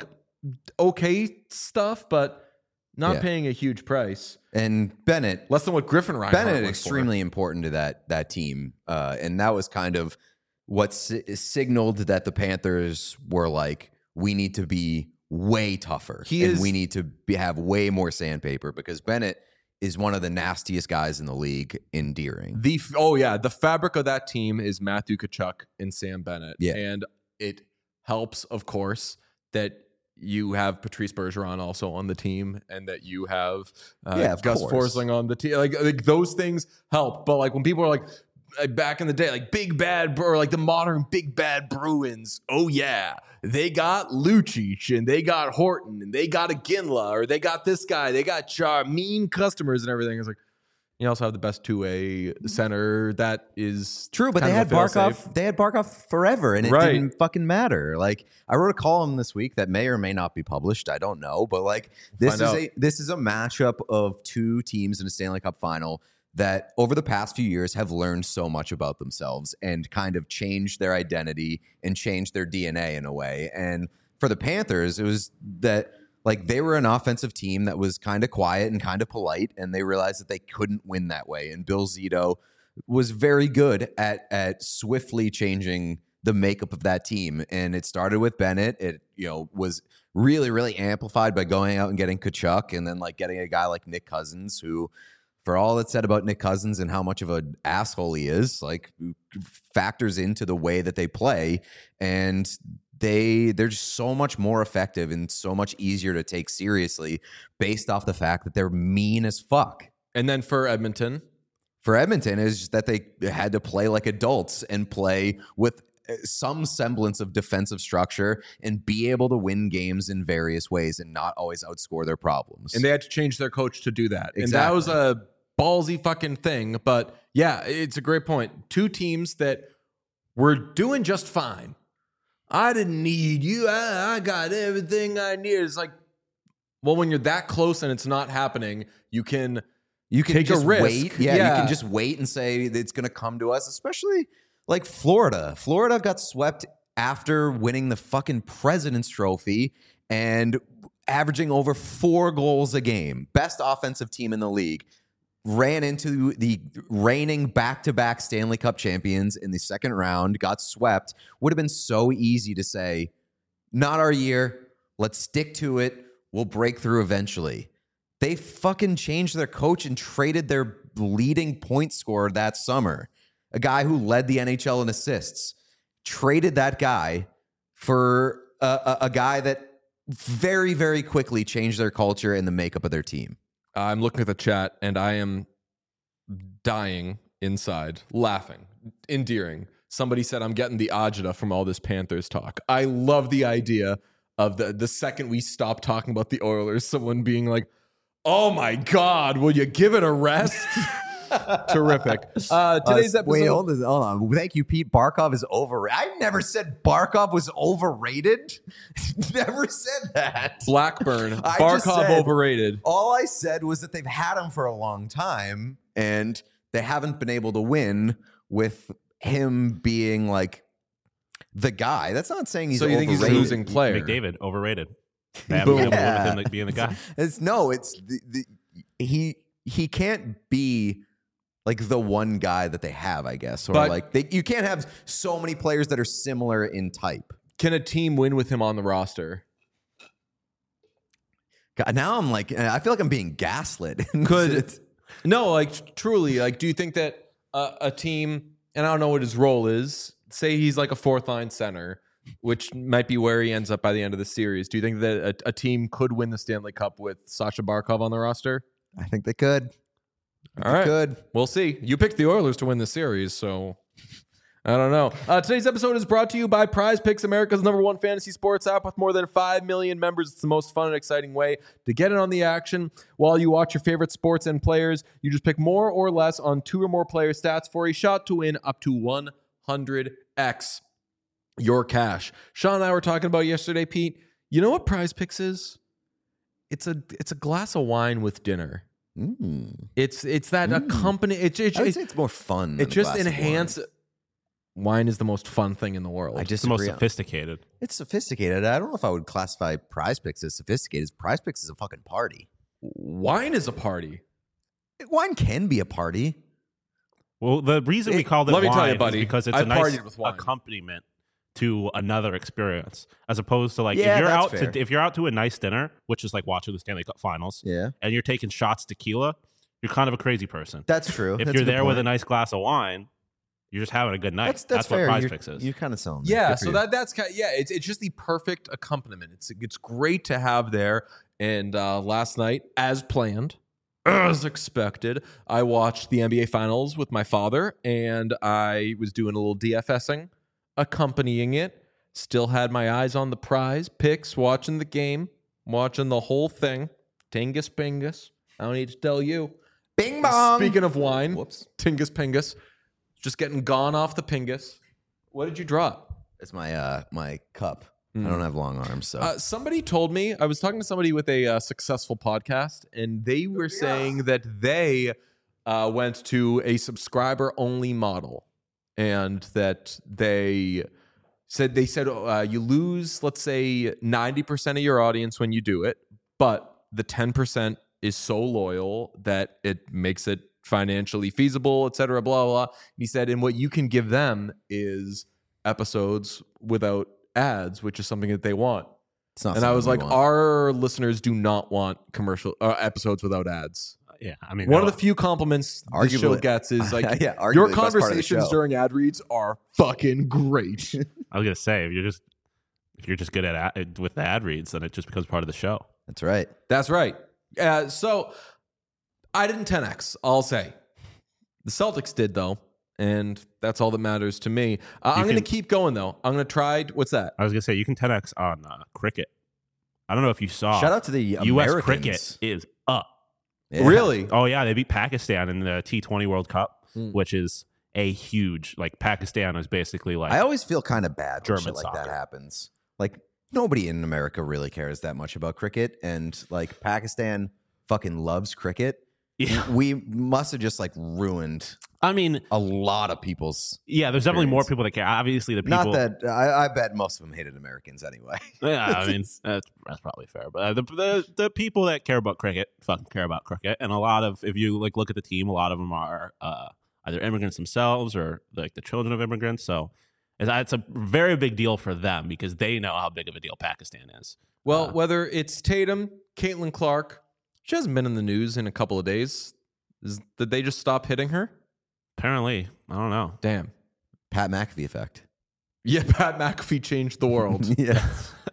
okay stuff, but not Yeah. paying a huge price. and Bennett. Less than what Griffin Reinhart Bennett went for. extremely important to that that team, uh, and that was kind of what si- signaled that the Panthers were like, we need to be way tougher, He and is- we need to be, have way more sandpaper because Bennett is one of the nastiest guys in the league. Endearing, The f- oh yeah, the fabric of that team is Matthew Tkachuk and Sam Bennett. Yeah. And it helps, of course, that you have Patrice Bergeron also on the team, and that you have uh, Yeah, of Gus course. Forsling on the team. Like, like those things help. But like when people are like uh, back in the day, like big bad or like the modern big bad Bruins. Oh yeah, they got Lucic and they got Horton and they got a Ginla or they got this guy. They got Char, mean customers and everything. It's like. You also have the best two-way center. That is true, but kind they of had a fail-safe. Barkov. They had Barkov forever, and it Right. didn't fucking matter. Like I wrote a column this week that may or may not be published. I don't know, but like this Find is out. a this is a matchup of two teams in a Stanley Cup final that over the past few years have learned so much about themselves and kind of changed their identity and changed their D N A in a way. And for the Panthers, it was that like they were an offensive team that was kind of quiet and kind of polite, and they realized that they couldn't win that way. And Bill Zito was very good at at swiftly changing the makeup of that team. And it started with Bennett. It, you know, was really, really amplified by going out and getting Tkachuk and then like getting a guy like Nick Cousins, who, for all that's said about Nick Cousins and how much of an asshole he is, like factors into the way that they play. And they they're just so much more effective and so much easier to take seriously based off the fact that they're mean as fuck. And then for Edmonton, For Edmonton is just that they had to play like adults and play with some semblance of defensive structure and be able to win games in various ways and not always outscore their problems. and they had to change their coach to do that. And that Exactly. was a ballsy fucking thing. But yeah, it's a great point. Two teams that were doing just fine. I didn't need you. I, I got everything I needed. It's like, Well, when you're that close and it's not happening, you can You can take just a risk. wait. Yeah, Yeah. you can just wait and say that it's going to come to us, especially like Florida. Florida got swept after winning the fucking President's Trophy and averaging over four goals a game. Best offensive team in the league. Ran into the reigning back-to-back Stanley Cup champions in the second round, got swept. Would have been so easy to say, not our year. Let's stick to it. We'll break through eventually. They fucking changed their coach and traded their leading point scorer that summer, a guy who led the N H L in assists. Traded that guy for a, a, a guy that very, very quickly changed their culture and the makeup of their team. I'm looking at the chat and I am dying inside, laughing, endearing. Somebody said, I'm getting the agita from all this Panthers talk. I love the idea of the, the second we stop talking about the Oilers, someone being like, oh my God, will you give it a rest? Terrific. Uh, today's Uh, episode. Wait, hold on, hold on. Thank you, Pete. Barkov is overrated. I never said Barkov was overrated. Never said that. Blackburn, I just Barkov said- overrated. All I said was that they've had him for a long time and they haven't been able to win with him being like the guy. That's not saying he's So you think he's a overrated. losing player? McDavid, overrated. They haven't been able to win with him like, being the guy. It's no, it's the, the he he can't be like the one guy that they have, I guess. Or But- like they, you can't have so many players that are similar in type. Can a team win with him on the roster? God, now I'm like, I feel like I'm being gaslit. Could It's- no, like truly, like, do you think that uh, a team, and I don't know what his role is, say he's like a fourth line center, which might be where he ends up by the end of the series. Do you think that a, a team could win the Stanley Cup with Sasha Barkov on the roster? I think they could. All right. Good. We'll see. You picked the Oilers to win the series, so I don't know. Uh, today's episode is brought to you by Prize Picks, America's number one fantasy sports app with more than five million members. It's the most fun and exciting way to get in on the action while you watch your favorite sports and players. You just pick more or less on two or more player stats for a shot to win up to one hundred x your cash. Sean and I were talking about yesterday, Pete. You know what Prize Picks is? It's a it's a glass of wine with dinner. Mm. It's it's that accompany. It, it, I would it, say it's more fun. it than a just glass of enhance. Wine is the most fun thing in the world. I It's the most disagree. sophisticated. It's sophisticated. I don't know if I would classify Prize Picks as sophisticated. Prize Picks is a fucking party. Wine is a party. Wine can be a party. Well, the reason we It- called it let me wine tell you, is buddy, because it's I a nice partied with wine. accompaniment to another experience, as opposed to like Yeah, if you're that's out fair. to if you're out to a nice dinner, which is like watching the Stanley Cup Finals, Yeah, and you're taking shots tequila, you're kind of a crazy person. that's true. If That's you're a good there with a point. nice glass of wine, you're just having a good night. that's that's, what fair. Prize you're, Picks is. You're kind of selling. me. Yeah, Good for so you. that that's kind of, yeah, it's it's just the perfect accompaniment. It's it's great to have there. And uh, last night, as planned, as expected, I watched the N B A Finals with my father, and I was doing a little DFSing, accompanying it. Still had my eyes on the prize picks, watching the game, watching the whole thing. Tingus Pingus. I don't need to tell you. Bing bong. Speaking of wine, Whoops, Tingus Pingus, just getting gone off the Pingus. What did you drop? it's my uh my cup. Mm. I don't have long arms, so Uh, somebody told me, I was talking to somebody with a uh, successful podcast, and they were saying that they uh, went to a subscriber only model, and that they said they said uh, you lose, let's say, ninety percent of your audience when you do it, but the ten percent is so loyal that it makes it financially feasible, et cetera, blah, blah, blah. He said, and what you can give them is episodes without ads, which is something that they want. it's not. And I something was we like, want. our listeners do not want commercial uh, episodes without ads. yeah, I mean, One no, of the few compliments the Arguably- show gets is like, yeah, arguably your the best part of the conversations show. during ad reads are fucking great. I was gonna say if you're just if you're just good at ad, with the ad reads, then it just becomes part of the show. That's right. That's right. Uh, so I didn't ten X, I'll say. The Celtics did, though, and that's all that matters to me. Uh, I'm You going to can- keep going, though. I'm going to try. What's that? I was gonna say you can ten X on uh, cricket. I don't know if you saw. Shout out to the U S Americans. cricket is up. Yeah. Really? Oh yeah, they beat Pakistan in the T twenty World Cup, Hmm. which is a huge like Pakistan is basically like I always feel kind of bad when German shit like that soccer. happens. Like nobody in America really cares that much about cricket, and like Pakistan fucking loves cricket. Yeah. We must have just like ruined I mean, a lot of people's. yeah, there's definitely more experience. people that care. Obviously, the people. Not that I, I bet most of them hated Americans anyway. Yeah, I mean that's, that's probably fair, but uh, the, the the people that care about cricket fucking care about cricket, and a lot of if you like look at the team, a lot of them are uh, either immigrants themselves or like the children of immigrants. So it's, it's a very big deal for them because they know how big of a deal Pakistan is. Well, Uh, whether it's Tatum, Caitlin Clark, she hasn't been in the news in a couple of days. Is, did they just stop hitting her? Apparently, I don't know. Damn. Pat McAfee effect. Yeah, Pat McAfee changed the world. Yeah,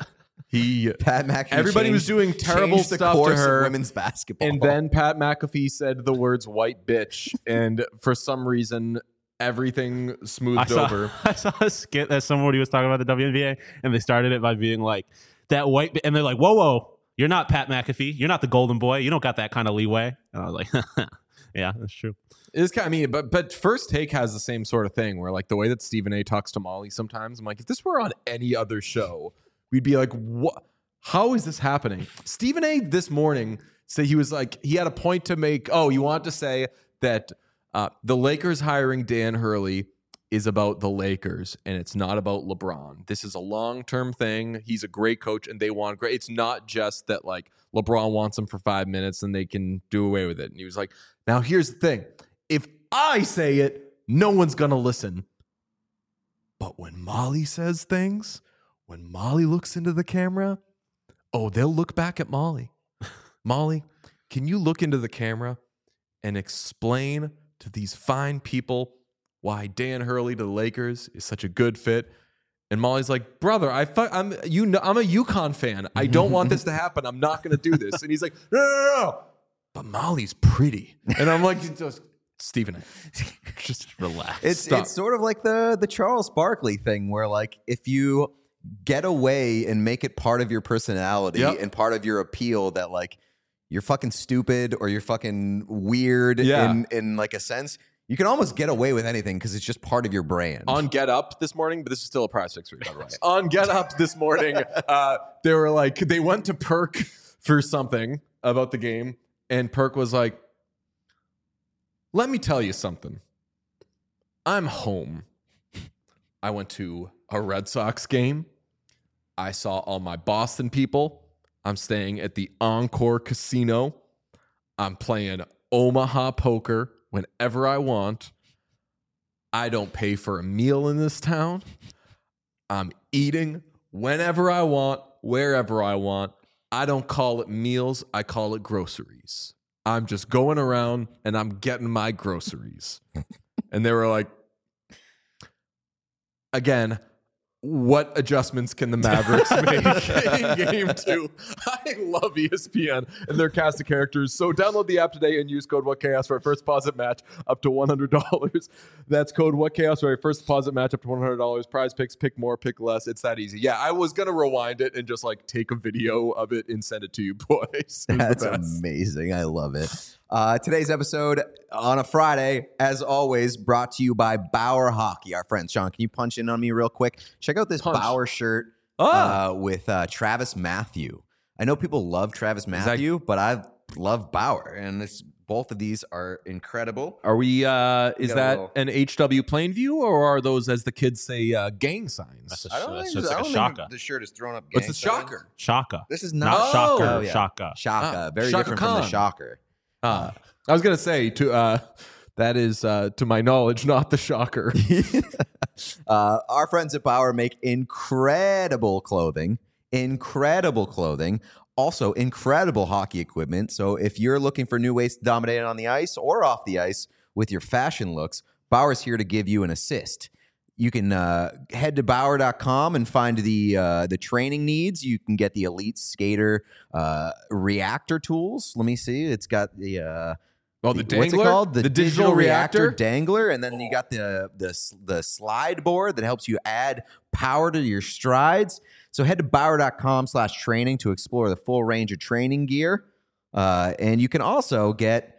He Pat McAfee. Everybody was changed- doing terrible changed the stuff to course of her, women's basketball, and then Pat McAfee said the words "white bitch," and for some reason, everything smoothed I saw, over. I saw a skit that somebody was talking about the W N B A, and they started it by being like, that white, bi-, and they're like, whoa, whoa, you're not Pat McAfee. You're not the golden boy. You don't got that kind of leeway. And I was like, yeah, that's true. It's kind of, I mean, but but First Take has the same sort of thing where like the way that Stephen A. talks to Molly sometimes, I'm like, if this were on any other show, we'd be like, what? How is this happening? Stephen A. this morning said he was like, he had a point to make. Oh, you want to say that uh, the Lakers hiring Dan Hurley is about the Lakers and it's not about LeBron. This is a long-term thing. He's a great coach and they want great. It's not just that like LeBron wants him for five minutes and they can do away with it. And he was like, now here's the thing. If I say it, no one's going to listen. But when Molly says things, when Molly looks into the camera, oh, they'll look back at Molly. Molly, can you look into the camera and explain to these fine people why Dan Hurley to the Lakers is such a good fit? And Molly's like, brother, I fu- I'm you know, I'm a UConn fan. I don't want this to happen. I'm not going to do this. And he's like, no, no, no, no. But Molly's pretty. And I'm like, just Stephen A. Just relax. It's Stop. it's sort of like the the Charles Barkley thing, where like if you get away and make it part of your personality Yep. and part of your appeal that like you're fucking stupid or you're fucking weird Yeah. in in like a sense, you can almost get away with anything because it's just part of your brand. On Get Up this morning, but this is still a prize fix for you, by the way. On Get Up this morning, uh, they were like, they went to Perk for something about the game, and Perk was like, let me tell you something. I'm home. I went to a Red Sox game. I saw all my Boston people. I'm staying at the Encore Casino. I'm playing Omaha poker whenever I want. I don't pay for a meal in this town. I'm eating whenever I want, wherever I want. I don't call it meals. I call it groceries. I'm just going around and I'm getting my groceries. And they were like, again, what adjustments can the Mavericks make in game two? I love E S P N and their cast of characters. So download the app today and use code WhatChaos for our first deposit match up to one hundred dollars. That's code WhatChaos for our first deposit match up to one hundred dollars. Prize picks, pick more, pick less. It's that easy. Yeah, I was going to rewind it and just like take a video of it and send it to you boys. It was the That's best. amazing. I love it. Uh, today's episode on a Friday, as always, brought to you by Bauer Hockey. Our friend Sean, can you punch in on me real quick? Check out this Punch. Bauer shirt Ah. uh, with uh, Travis Matthew. I know people love Travis Matthew, but I love Bauer, and it's, both of these are incredible. Are we, uh, is got a that little- an H W Plainview or are those, as the kids say, uh, gang signs? That's a, I don't that's think, just I like a don't shaka. think the shirt is thrown up. What's gang the signs. shocker? Shaka. This is Not not, shocker. Oh, yeah. Shaka. Shaka. Ah, Very Shaka different from the Khan. shocker. Uh, I was gonna say to uh, that is uh, to my knowledge not the shocker. Uh, our friends at Bauer make incredible clothing, incredible clothing, also incredible hockey equipment. So if you're looking for new ways to dominate on the ice or off the ice with your fashion looks, Bauer's here to give you an assist. You can uh, head to Bauer dot com and find the uh, the training needs. You can get the Elite Skater uh, reactor tools. Let me see. It's got the uh, Oh, the what's it dangler? called? The, The digital, digital reactor? reactor? dangler, and then you got the the the slide board that helps you add power to your strides. So head to Bauer dot com slash training to explore the full range of training gear, uh, and you can also get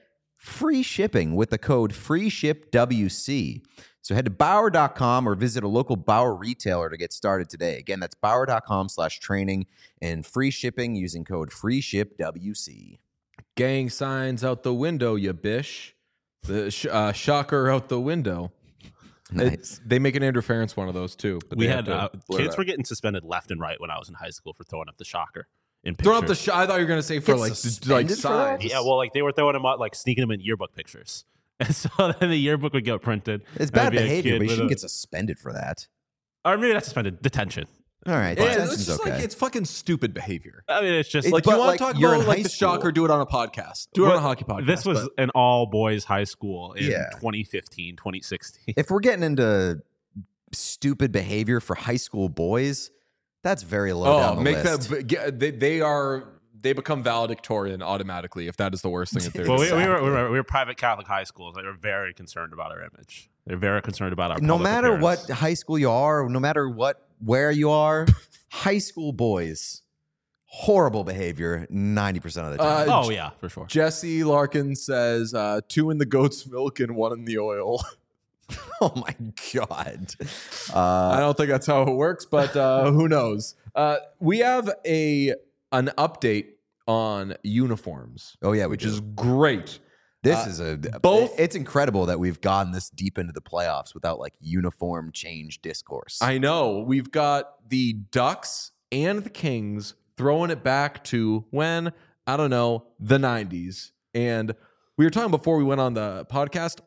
free shipping with the code FREESHIPWC. So head to Bauer dot com or visit a local Bauer retailer to get started today. Again, that's Bauer dot com slash training and free shipping using code FREESHIPWC. Gang signs out the window, you bish. The sh- uh, shocker out the window. Nice. It, they make an interference one of those too. But We they had have to uh, blur kids that. were getting suspended left and right when I was in high school for throwing up the shocker in Throw up the pictures. sh- I thought you were gonna say for Get like suspended like for that? signs. Yeah, well, like they were throwing them out, like sneaking them in yearbook pictures, and so then the yearbook would get printed. It's and bad there'd be a behavior, kid but you with shouldn't a- get suspended for that. Or maybe not suspended, detention. All right, Yeah, detention's it's just okay. like it's fucking stupid behavior. I mean, it's just It- Like But, you want like, to talk you're about in like high the school. shocker, do it on a podcast. Do it on Well, a hockey podcast. this was but- an all boys high school in Yeah. twenty fifteen, twenty sixteen. If we're getting into stupid behavior for high school boys, that's very low down oh, the make list. that get- they, they are they become valedictorian automatically if that is the worst thing that they're Well, we, doing. we, were, we, were, we were private Catholic high schools. They were very concerned about our image. They're very concerned about our no public matter appearance. what high school you are, no matter what where you are, high school boys, horrible behavior ninety percent of the time. Uh, Oh, yeah, for sure. Jesse Larkin says uh, two in the goat's milk and one in the oil. Oh my god. I Uh, don't think that's how it works, but uh, who knows? Uh, we have a an update on uniforms, oh yeah, we which do. is great. This uh, is a both- It's incredible that we've gone this deep into the playoffs without like uniform change discourse. I know we've got the Ducks and the Kings throwing it back to when I don't know the nineties, and we were talking before we went on the podcast.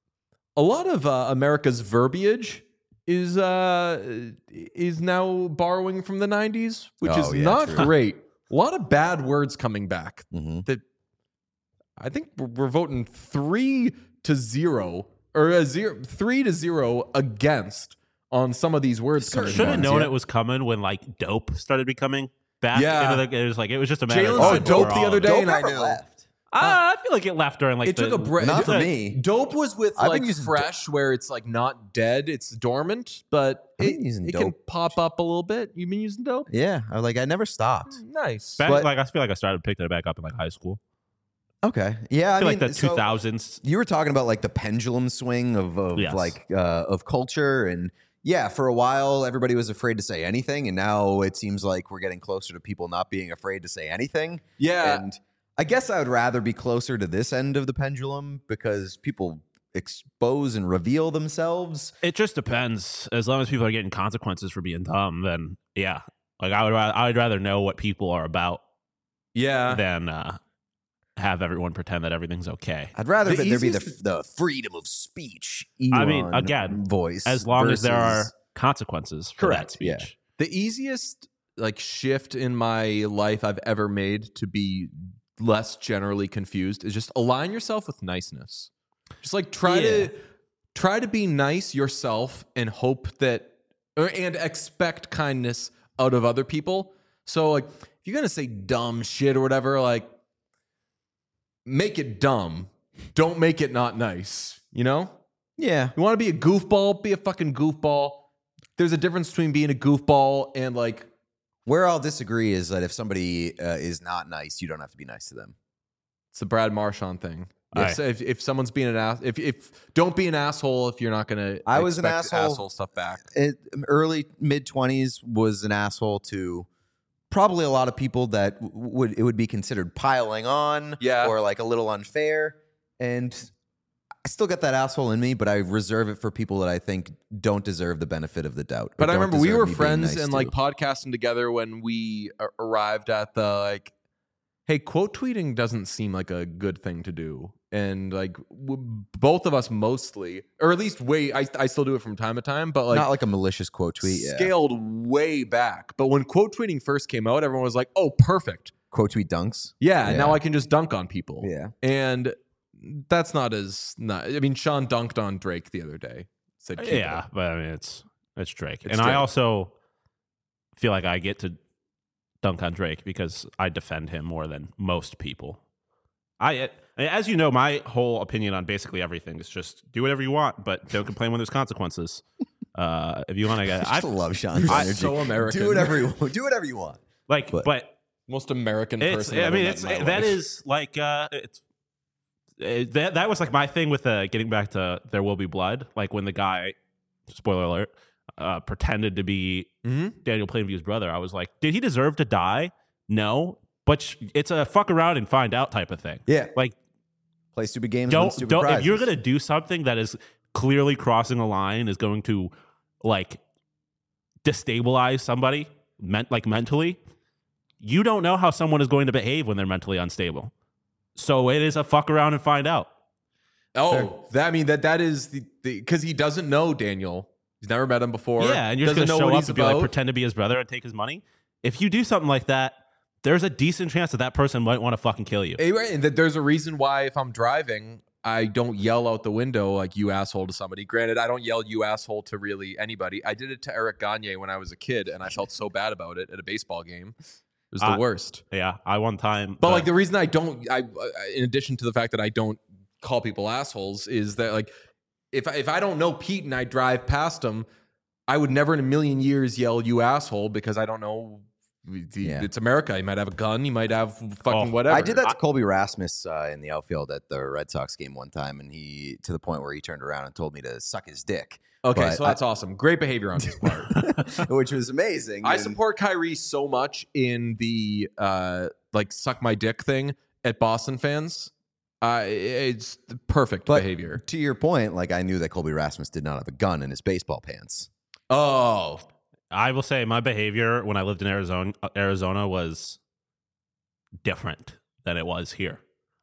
A lot of uh, America's verbiage is uh, is now borrowing from the nineties, which Oh, is yeah, not true. great. A lot of bad words coming back. Mhm. That I think we're, we're voting three to zero or a zero, three to zero against on some of these words. Certain coming Should have back. ones, known yeah. it was coming when like dope started becoming back. Yeah. into the, it was like it was just a matter. Jalen of said time dope before the all other of it. day, Dope and I never knew. left. Ah, I feel like it left during like It the, took a break. Not for like, me. Dope was with I've been like using fresh, where it's like not dead, it's dormant, but I've it, been using it can dope. pop up a little bit. You've been using dope? Yeah, I like I never stopped. Nice. Back, But- like I feel like I started picking it back up in like high school. Okay, yeah, I I, feel mean, like the so two thousands. you were talking about like the pendulum swing of, of Yes. like uh, of culture, and yeah, for a while everybody was afraid to say anything, and now it seems like we're getting closer to people not being afraid to say anything. Yeah. And I guess I would rather be closer to this end of the pendulum because people expose and reveal themselves. It just depends. As long as people are getting consequences for being dumb, then yeah. Like I would, rather, I would rather know what people are about yeah. than uh, have everyone pretend that everything's okay. I'd rather The be, there be the, easiest- the freedom of speech. I mean, Elon again, voice As long as there are versus- consequences for Correct, that speech. yeah. The easiest like shift in my life I've ever made to be less generally confused is just align yourself with niceness. Just like try Yeah. to try to be nice yourself and hope that or, and expect kindness out of other people. So like if you're going to say dumb shit or whatever, like make it dumb. Don't make it not nice, you know? Yeah. You want to be a goofball, be a fucking goofball. There's a difference between being a goofball and like Where I'll disagree is that if somebody uh, is not nice, you don't have to be nice to them. it's the Brad Marchand thing. Aye. If, if if someone's being an ass, if if don't be an asshole if you're not gonna. I was an expect asshole. asshole stuff back. It, early mid twenties was an asshole to probably a lot of people that w- would it would be considered piling on, Yeah. or like a little unfair. And I still got that asshole in me, but I reserve it for people that I think don't deserve the benefit of the doubt. or But I don't remember we deserve were me being friends nice and to. like podcasting together when we a- arrived at the like, hey, quote tweeting doesn't seem like a good thing to do, and like w- both of us mostly, or at least way, I I still do it from time to time, but like not like a malicious quote tweet. Yeah. scaled way back. But when quote tweeting first came out, everyone was like, oh, perfect. Quote tweet dunks. Yeah, Yeah. now I can just dunk on people. Yeah. And that's not as not. I mean, Sean dunked on Drake the other day. Said, "Keep it Yeah, up." but I mean, it's it's Drake, It's and I Drake. also feel like I get to dunk on Drake because I defend him more than most people. I, as you know, my whole opinion on basically everything is just do whatever you want, but don't complain when there's consequences. Uh, if you want to get, I I love Sean's You're energy. so American. Do whatever you want. Do whatever you want. like, But- but Most American it's. person. I I've mean, ever met it's in my that life. is like uh, it's it, that that was like my thing with uh, getting back to There Will Be Blood. Like when the guy, spoiler alert, uh, pretended to be Mm-hmm. Daniel Plainview's brother. I was like, did he deserve to die? No, but sh- it's a fuck around and find out type of thing. Yeah. Like, Play stupid games. win don't stupid don't if prizes. you're gonna do something that is clearly crossing a line, is going to like destabilize somebody, meant like mentally. You don't know how someone is going to behave when they're mentally unstable. So it is a fuck around and find out. Oh, that, I mean that that is the because he doesn't know Daniel. He's never met him before. Yeah, and you're just doesn't gonna know show what up he's and be like, about. pretend to be his brother and take his money. If you do something like that, there's a decent chance that that person might want to fucking kill you. Hey, right, and that there's a reason why if I'm driving, I don't yell out the window like "you asshole" to somebody. Granted, I don't yell "you asshole" to really anybody. I did it to Eric Gagne when I was a kid, and I felt so bad about it at a baseball game. It was the Uh, worst. Yeah, I one time. But uh, like the reason I don't, I in addition to the fact that I don't call people assholes, is that like if I, if I don't know Pete and I drive past him, I would never in a million years yell "you asshole" because I don't know. The, Yeah. It's America. He might have a gun. He might have fucking Oh, whatever. I did that to Colby Rasmus uh, in the outfield at the Red Sox game one time, and he to the point where he turned around and told me to suck his dick. Okay, But so that's awesome. Great behavior on his part. which was amazing. I and- support Kyrie so much in the uh, like suck my dick thing at Boston fans. Uh, it's the perfect But behavior. to your point, like I knew that Colby Rasmus did not have a gun in his baseball pants. Oh, I will say my behavior when I lived in Arizona, Arizona was different than it was here.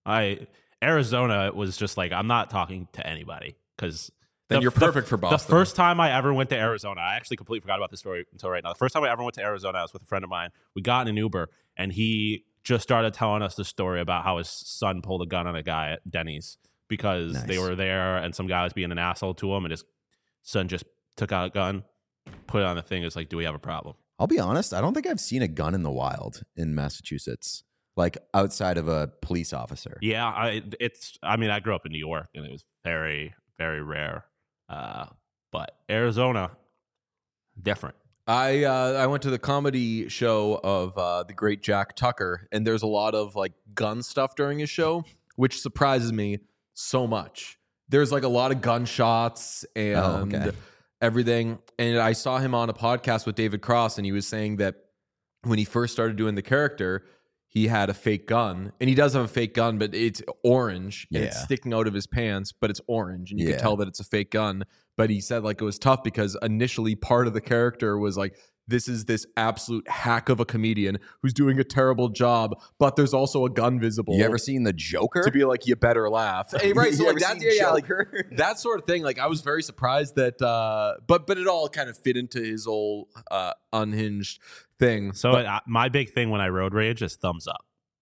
I Arizona was just like, I'm not talking to anybody because then you're perfect for Boston. The first time I ever went to Arizona, I actually completely forgot about this story until right now. The first time I ever went to Arizona, I was with a friend of mine. We got in an Uber, and he just started telling us the story about how his son pulled a gun on a guy at Denny's because Nice. they were there and some guy was being an asshole to him, and his son just took out a gun, put it on the thing. It's like, do we have a problem? I'll be honest, I don't think I've seen a gun in the wild in Massachusetts, like outside of a police officer. Yeah, I it's. I mean, I grew up in New York, and it was very, very rare. Uh, but Arizona, different. I uh, I went to the comedy show of uh, the great Jack Tucker, and there's a lot of like gun stuff during his show, which surprises me so much. There's like a lot of gunshots and Oh, okay. everything. And I saw him on a podcast with David Cross, and he was saying that when he first started doing the character, he had a fake gun, and he does have a fake gun, but it's orange and it's Yeah. sticking out of his pants, but it's orange, and you Yeah. can tell that it's a fake gun. But he said like it was tough because initially part of the character was like, this is this absolute hack of a comedian who's doing a terrible job, but there's also a gun visible. You ever seen the Joker? to be like, you better laugh. Hey, right. So You like ever that, seen yeah, yeah, like, Joker? that sort of thing. Like I was very surprised that, uh, but but it all kind of fit into his old uh, unhinged thing. So But- uh, my big thing when I road rage is thumbs up.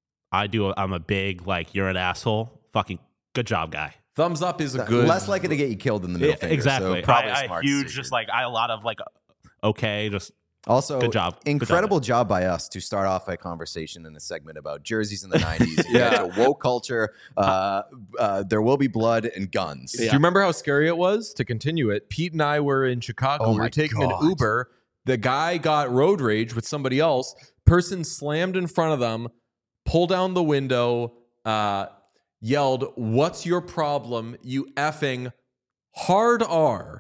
I do. I'm a big like you're an asshole. Fucking good job, guy. thumbs up is a good. Less likely to get you killed than the middle Yeah, finger. exactly. So probably a I, I smart huge, decision. just like I a lot of like okay, just Also, Good job. Good incredible job, by us to start off a conversation in a segment about jerseys in the nineties. Yeah. yeah, to woke culture. Uh, uh, there will be blood and guns. Do you remember how scary it was? To continue it, Pete and I were in Chicago. Oh we my were taking God. an Uber. The guy got road rage with somebody else. Person slammed in front of them, pulled down the window, uh, yelled, "What's your problem, you effing hard R?"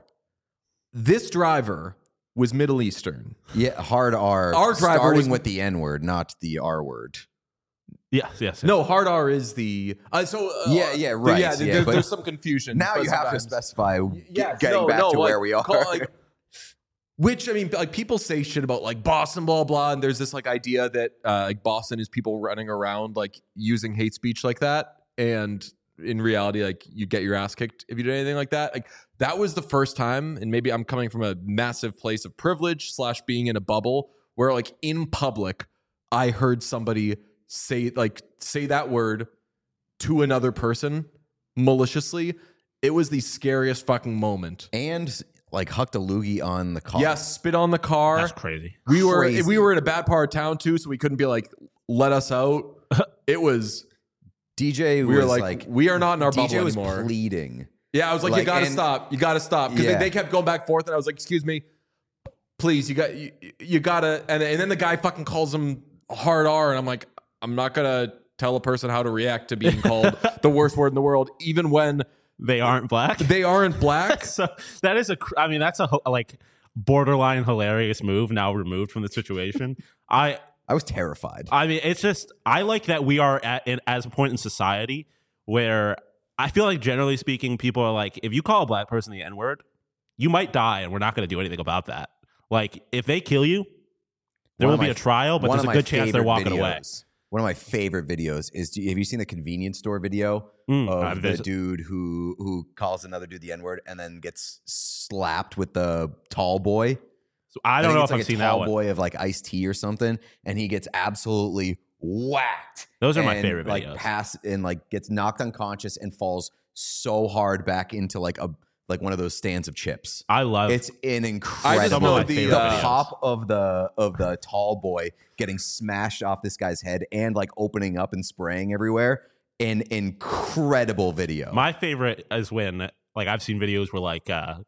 This driver was Middle Eastern. Yeah, hard R. Our driver starting was- with the N word, not the R word. yes, yes. yes. No, hard R is the uh, so. Uh, Yeah, yeah, right, Yeah, yeah, there- but there's some confusion. Now but you have to sometimes- specify Yes, getting no, back no, to like, where we are. call- like, which I mean, like people say shit about like Boston, blah blah, and there's this like idea that uh, like Boston is people running around like using hate speech like that, and in reality, like you get your ass kicked if you do anything like that. Like that was the first time, and maybe I'm coming from a massive place of privilege slash being in a bubble where like in public, I heard somebody say like say that word to another person maliciously. It was the scariest fucking moment. and like hucked a loogie on the car. Yes, spit on the car. That's crazy. We were Crazy. we were in a bad part of town too, so we couldn't be like, let us out. It was D J we was were like, like, we are not in our D J bubble was anymore. pleading. Yeah, I was like, like, you gotta and- stop. You gotta stop. Because Yeah. they, they kept going back and forth, and I was like, excuse me, please, you got you, you gotta and, and then the guy fucking calls him hard R, and I'm like, I'm not gonna tell a person how to react to being called the worst word in the world, even when They aren't black. they aren't black. So that is a. cr- I mean, that's a ho- like borderline hilarious move. Now removed from the situation. I. I was terrified. I mean, it's just I like that we are at in, as a point in society where I feel like generally speaking, people are like, if you call a black person the N word, you might die, and we're not going to do anything about that. Like, if they kill you, there One will of be my- a trial, but one there's of a my good chance they're favorite walking videos, away. One of my favorite videos is: do you, have you seen the convenience store video Mm, of I've the vis- dude who who calls another dude the N word and then gets slapped with the tall boy? So I don't think know it's if like I've a seen tall that one. boy of like iced tea or something, and he gets absolutely whacked. Those are my and, favorite like videos. pass and like gets knocked unconscious and falls so hard back into like a like one of those stands of chips. I love It's an incredible. I just know the, the, the uh, top of the of the tall boy getting smashed off this guy's head and like opening up and spraying everywhere. An incredible video. my favorite is when like I've seen videos where like uh,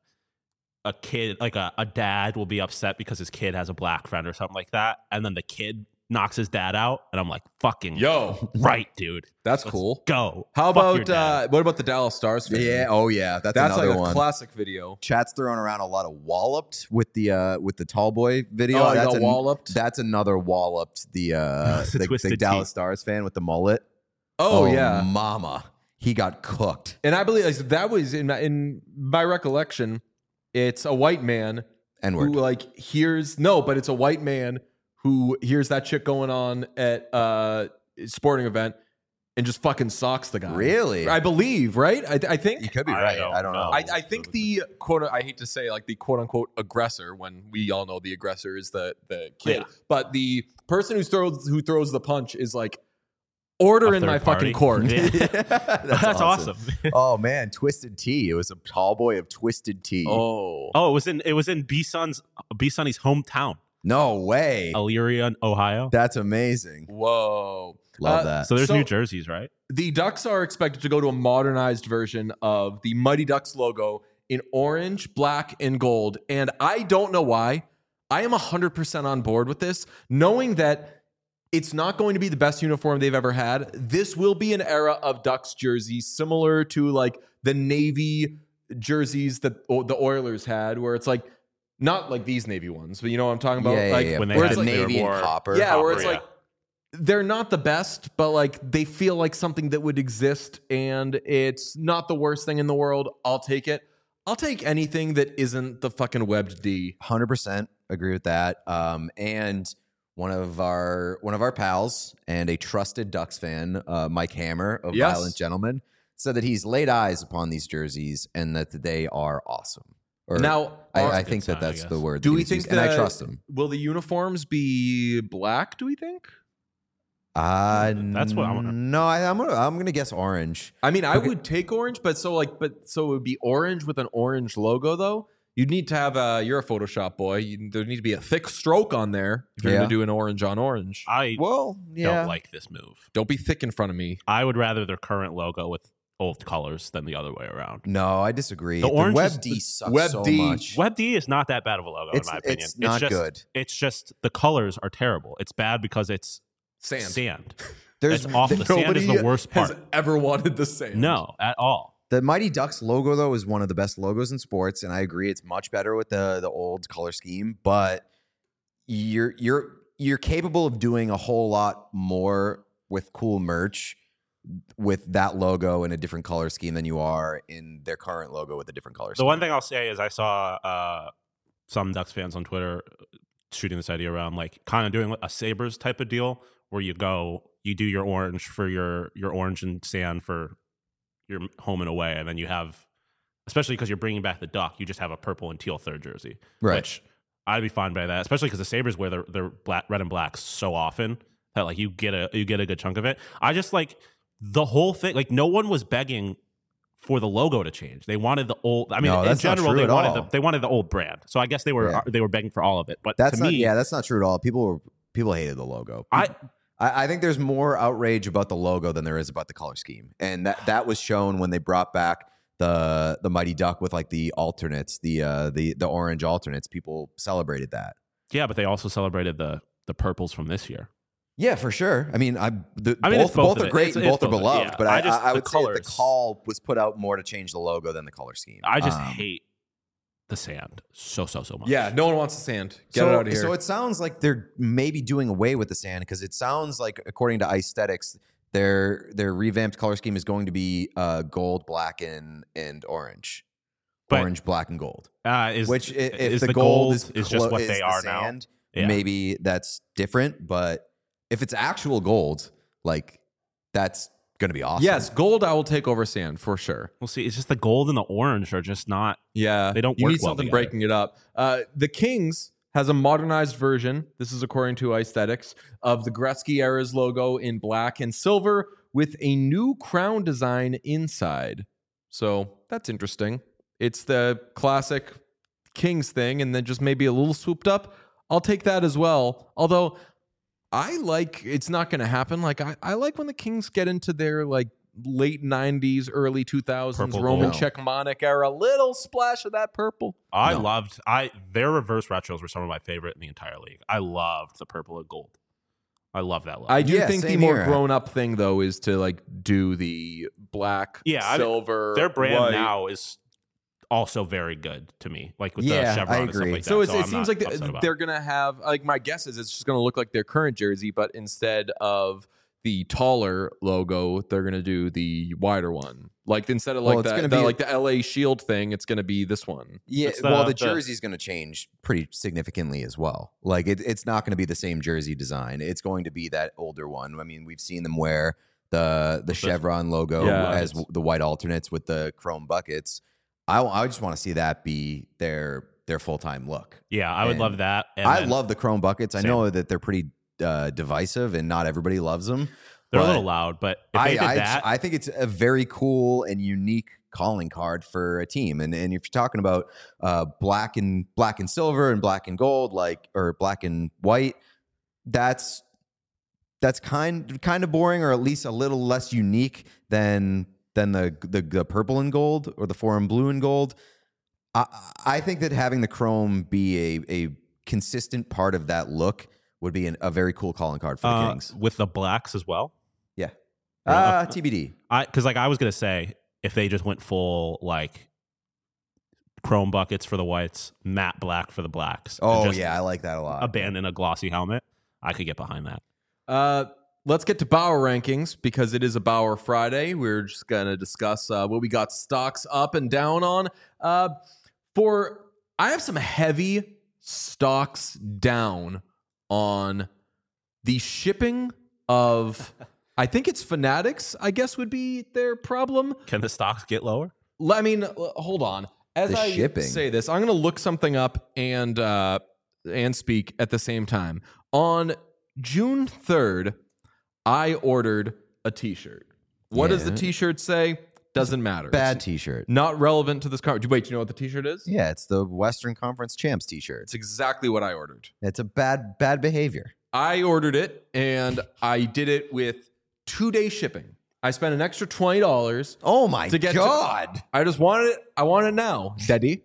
a kid, like a, a dad, will be upset because his kid has a black friend or something like that, and then the kid knocks his dad out, and I'm like, "Fucking Yo, right, dude, that's Let's cool. go." How Fuck your about dad. uh, what about the Dallas Stars fan? yeah. Oh yeah. That's, that's another like a one. classic video. Chat's throwing around a lot of walloped with the uh with the tall boy video. Oh, you that's got an- walloped? That's another walloped. The uh It's a the, Twisted the Tea. Dallas Stars fan with the mullet. Oh, yeah, mama, he got cooked. and I believe like, that was in my, in my recollection. It's a white man N who word. like hears no, but it's a white man who hears that shit going on at uh sporting event and just fucking socks the guy. Really? I believe, right? I, I think. You could be I right. don't I don't know. know. I, I think the quote I hate to say like the quote unquote aggressor when we all know the aggressor is the the kid, Yeah. but the person who throws who throws the punch is like order A in my third party. fucking court. Yeah. that's, That's awesome. Oh man, Twisted Tea. It was a tall boy of Twisted Tea. Oh, Oh, it was in it was in B Sun's B Sunny's hometown, No way. Elyria, Ohio. That's amazing. whoa! Love Uh, that. So there's So- New Jerseys, right? The Ducks are expected to go to a modernized version of the Mighty Ducks logo in orange, black, and gold. And I don't know why. I am one hundred percent on board with this, knowing that it's not going to be the best uniform they've ever had. This will be an era of Ducks jerseys similar to like the Navy jerseys that o- the Oilers had, where it's like not like these Navy ones, but you know what I'm talking about? yeah, yeah, like yeah. when they Where had it's like, they were navy and more- copper. yeah, where Copper, it's yeah. like they're not the best, but like they feel like something that would exist, and it's not the worst thing in the world. I'll take it. I'll take anything that isn't the fucking webbed D. one hundred percent agree with that. Um, and one of our one of our pals and a trusted Ducks fan, uh, Mike Hammer of Yes. Violent Gentlemen, said that he's laid eyes upon these jerseys and that they are awesome. Or Now, I, are- I good think sign, that I that's guess. the word. do that we he's think used, and I that- trust him? will the uniforms be black? Do we think? Uh, That's what I wanna- No, I, I'm gonna I'm gonna guess orange. I mean, I Okay. would take orange, but so like, but so it would be orange with an orange logo, though. You'd need to have a. You're a Photoshop boy. You, there need to be a thick stroke on there if you're Yeah. going to do an orange on orange. I Well, yeah. don't like this move. Don't be thick in front of me. I would rather their current logo with old colors than the other way around. No, I disagree. The orange Web is- D sucks Web so D. much. Web D is not that bad of a logo It's- in my opinion. it's not just, good. It's just the colors are terrible. It's bad because it's Sand. sand. There's It's awful. The sand is the worst has part. ever wanted the sand. No, at all. The Mighty Ducks logo, though, is one of the best logos in sports, and I agree it's much better with the the old color scheme. But you're you're you're capable of doing a whole lot more with cool merch with that logo in a different color scheme than you are in their current logo with a different color The scheme. one thing I'll say is I saw uh, some Ducks fans on Twitter shooting this idea around, like kind of doing a Sabres type of deal where you go, you do your orange for your your orange and sand for your home and away, and then you have, especially because you're bringing back the Duck, you just have a purple and teal third jersey, Right. which I'd be fine by that, especially because the Sabres wear their, their black, red and black so often that like you get a you get a good chunk of it. I just like the whole thing. Like no one was begging for the logo to change. They wanted the old. I mean, No, in that's not general, true they at wanted all. the they wanted the old brand. So I guess they were Yeah. they were begging for all of it. But That's to not me, yeah, that's not true at all. People were people hated the logo. I I, I think there's more outrage about the logo than there is about the color scheme, and that that was shown when they brought back the the Mighty Duck with like the alternates, the uh, the the orange alternates. People celebrated that. yeah, but they also celebrated the the purples from this year. Yeah, for sure. I mean, I the, I mean, both it's both both of are it. great It's- and it's both are both of it, beloved. yeah. But I I, just- I, I the would say that the colors. call was put out more to change the logo than the color scheme. I just Um, hate the sand so so so much. Yeah, no one wants the sand. Get so, it out of here. So it sounds like they're maybe doing away with the sand because it sounds like, according to Aesthetics, their their revamped color scheme is going to be uh, gold, black, and and orange, But- orange, black, and gold. Uh, is Which i- if is the, the gold, is, is clo- just what is they the are now. sand, Yeah. maybe that's different. But if it's actual gold, like that's going to be awesome. yes, gold I will take over sand for sure. We'll see. It's just the gold and the orange are just not. Yeah, They don't You work need well something together. breaking it up. Uh, the Kings has a modernized version. This is according to Aesthetics of the Gretzky era's logo in black and silver with a new crown design inside. So that's interesting. It's the classic Kings thing, and then just maybe a little swooped up. I'll take that as well. Although I like it's not going to happen. Like I, I like when the Kings get into their like late nineties, early two thousands Purple Roman gold. Czechmanic era. Little splash of that purple. I No. loved. I their reverse retros were some of my favorite in the entire league. I loved the purple and gold. I love that look. I do Yeah, think the same more here. grown up thing though is to like do the black, Yeah, I mean, silver. their brand white. now is also very good to me. Like with Yeah, the I chevron and agree. stuff like that. So, it's, so it I'm seems not like upset the, about they're it. gonna have like my guess is it's just gonna look like their current jersey, but instead of the taller logo, they're gonna do the wider one. Like instead of Well, like it's the, gonna the be- like the L A Shield thing, it's gonna be this one. Yeah, It's the- well, the, the- jersey's going to change pretty significantly as well. Like it, it's not going to be the same jersey design. It's going to be that older one. I mean, we've seen them wear the the chevron logo Yeah. as w- the white alternates with the chrome buckets. I, I just want to see that be their their full time look. Yeah, I would and love that. And I then love the chrome buckets. I Same. know that they're pretty uh, divisive and not everybody loves them. They're a but little loud, but if I, they did I, that, I think it's a very cool and unique calling card for a team. And and if you're talking about uh, black and black and silver and black and gold, like or black and white, that's that's kind kind of boring, or at least a little less unique than than the the, the purple and gold or the foreign blue and gold. I, I think that having the chrome be a a consistent part of that look would be an, a very cool calling card for the uh, Kings. with the blacks as well. Yeah. Really? Uh, T B D. I because like I was gonna say if they just went full like chrome buckets for the whites, matte black for the blacks. and Oh just yeah, I like that a lot. abandon a glossy helmet, I could get behind that. Uh, let's get to Bauer rankings because it is a Bauer Friday. We're just gonna discuss uh, what we got stocks up and down on. Uh, for I have some heavy stocks down on the shipping of. I think it's Fanatics. I guess would be their problem. Can the stocks get lower? L- I mean, l- hold on. As The I shipping. say this, I'm going to look something up and uh, and speak at the same time. On June third, I ordered a T-shirt. What does the Yeah. T-shirt say? Doesn't matter. Bad It's T-shirt. not relevant to this conversation. Wait, do you know what the T-shirt is? Yeah, it's the Western Conference Champs T-shirt. It's exactly what I ordered. It's a bad bad behavior. I ordered it, and I did it with two-day shipping. I spent an extra twenty dollars. Oh my To get to- god! I just wanted it. I want it now, Daddy.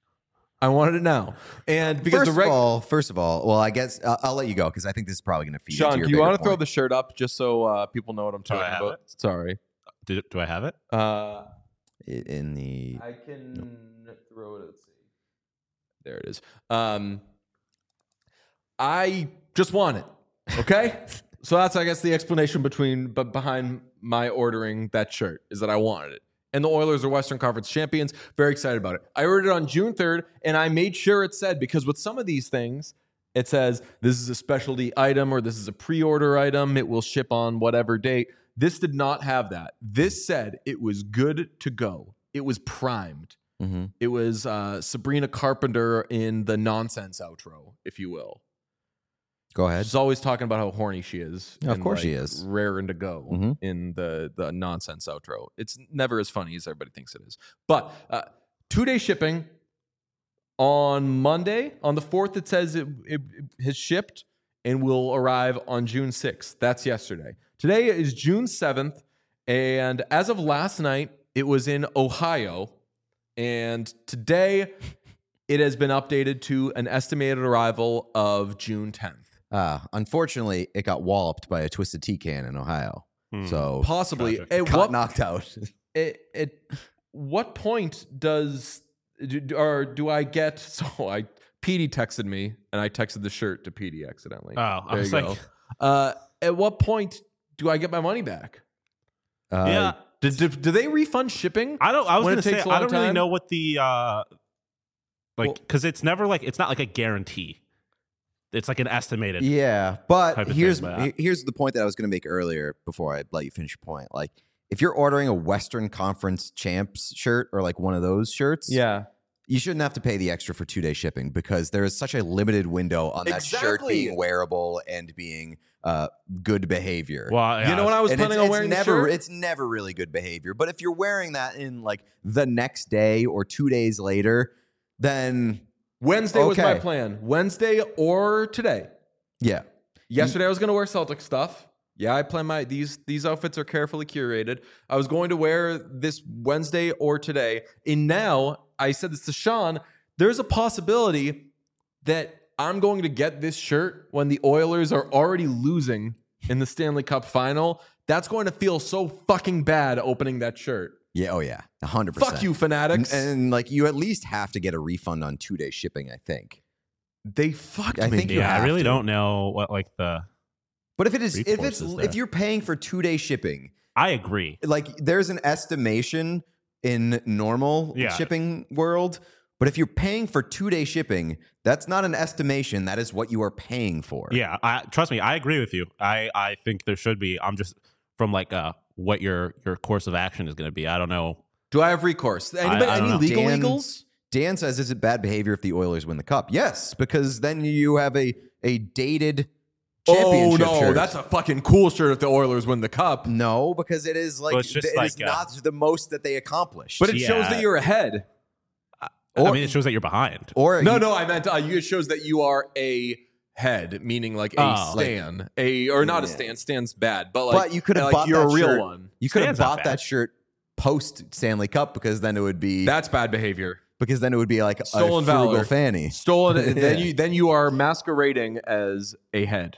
I wanted it now, and because first the reg- of all, first of all, well, I guess I'll, I'll let you go because I think this is probably going to feed Sean, into your do you want to bigger throw point. the shirt up just so uh, people know what I'm Do I talking have about? Sorry. Do, do I have it? Uh, in the I can throw it. Let's see. There it is. Um, I just want it. Okay. So that's, I guess, the explanation between but behind my ordering that shirt is that I wanted it. And the Oilers are Western Conference champions. Very excited about it. I ordered it on June third, and I made sure it said, because with some of these things, it says this is a specialty item or this is a pre-order item. It will ship on whatever date. This did not have that. This said it was good to go. It was primed. hmm It was uh, Sabrina Carpenter in the nonsense outro, if you will. Go ahead. She's always talking about how horny she is. Of and, course she like, is. Raring to go Mhm. in the, the nonsense outro. It's never as funny as everybody thinks it is. But uh, two-day shipping on Monday. On the fourth, it says it, it, it has shipped and will arrive on June sixth. That's yesterday. Today is June seventh. And as of last night, it was in Ohio. And today, it has been updated to an estimated arrival of June tenth. Uh, unfortunately, it got walloped by a Twisted Tea can in Ohio. Hmm. So Possibly. Tragic. At got what, knocked out. at, at what point does do, or do I get? So I Petey texted me, and I texted the shirt to Petey accidentally. Oh, I there was you like, go. Uh, at what point do I get my money back? Uh, yeah. Do, do, do they refund shipping? I don't. I was when going it to say takes a I long don't really time? know what the uh, like Well- because it's never like it's not like a guarantee. It's like an estimated. Yeah, but type of here's thing, but I- here's the point that I was going to make earlier before I let you finish your point. Like, if you're ordering a Western Conference champs shirt or like one of those shirts, Yeah. you shouldn't have to pay the extra for two day shipping because there is such a limited window on that shirt Exactly. being wearable and being uh, good behavior. Well, yeah, You know when I was And planning it's, on it's wearing the never shirt? it's never really good behavior. But if you're wearing that in like the next day or two days later, then Wednesday was my Okay. plan. Wednesday or today. yeah. Yesterday I was going to wear Celtic stuff. Yeah, I plan my these these outfits are carefully curated. I was going to wear this Wednesday or today. And now I said this to Sean, there's a possibility that I'm going to get this shirt when the Oilers are already losing in the Stanley Cup final. That's going to feel so fucking bad opening that shirt. Yeah, oh yeah. one hundred percent. Fuck you, And, fanatics. and like you at least have to get a refund on two day shipping, I think. they fucked I me. think you yeah. I have really to. don't know what like the. But if it is if Recourse it's is if there. you're paying for two day shipping, I agree. like there's an estimation in normal Yeah. shipping world. But if you're paying for two day shipping, that's not an estimation. That is what you are paying for. Yeah, I, trust me, I agree with you. I, I think there should be. I'm just from like uh what your your course of action is going to be. I don't know. Do I have recourse? Anybody, I don't any know. legal Dan- legals? Dan says, is it bad behavior if the Oilers win the cup? Yes, because then you have a a dated Oh championship no, shirt. that's a fucking cool shirt if the Oilers win the cup. No, because it is like Well, it's just it is like, uh, not the most that they accomplished. But it shows Yeah. that you're ahead. Or- I mean, it shows that you're behind. or No, you- no, I meant uh, you- it shows that you are a head, meaning like a Oh. stan, a or not a Yeah. stan. Stan's bad, but like but you could have like bought you're that a real shirt. one. You could have Stan's not bought bad. that shirt post Stanley Cup because then it would be That's bad behavior. because then it would be like Stolen a frugal valor. fanny. Stolen. Then Yeah. you then you are masquerading as a head.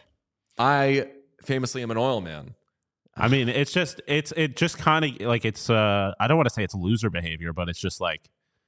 I famously am an oil man. I mean, it's just it's it just kind of like it's. uh I don't want to say it's loser behavior, but it's just like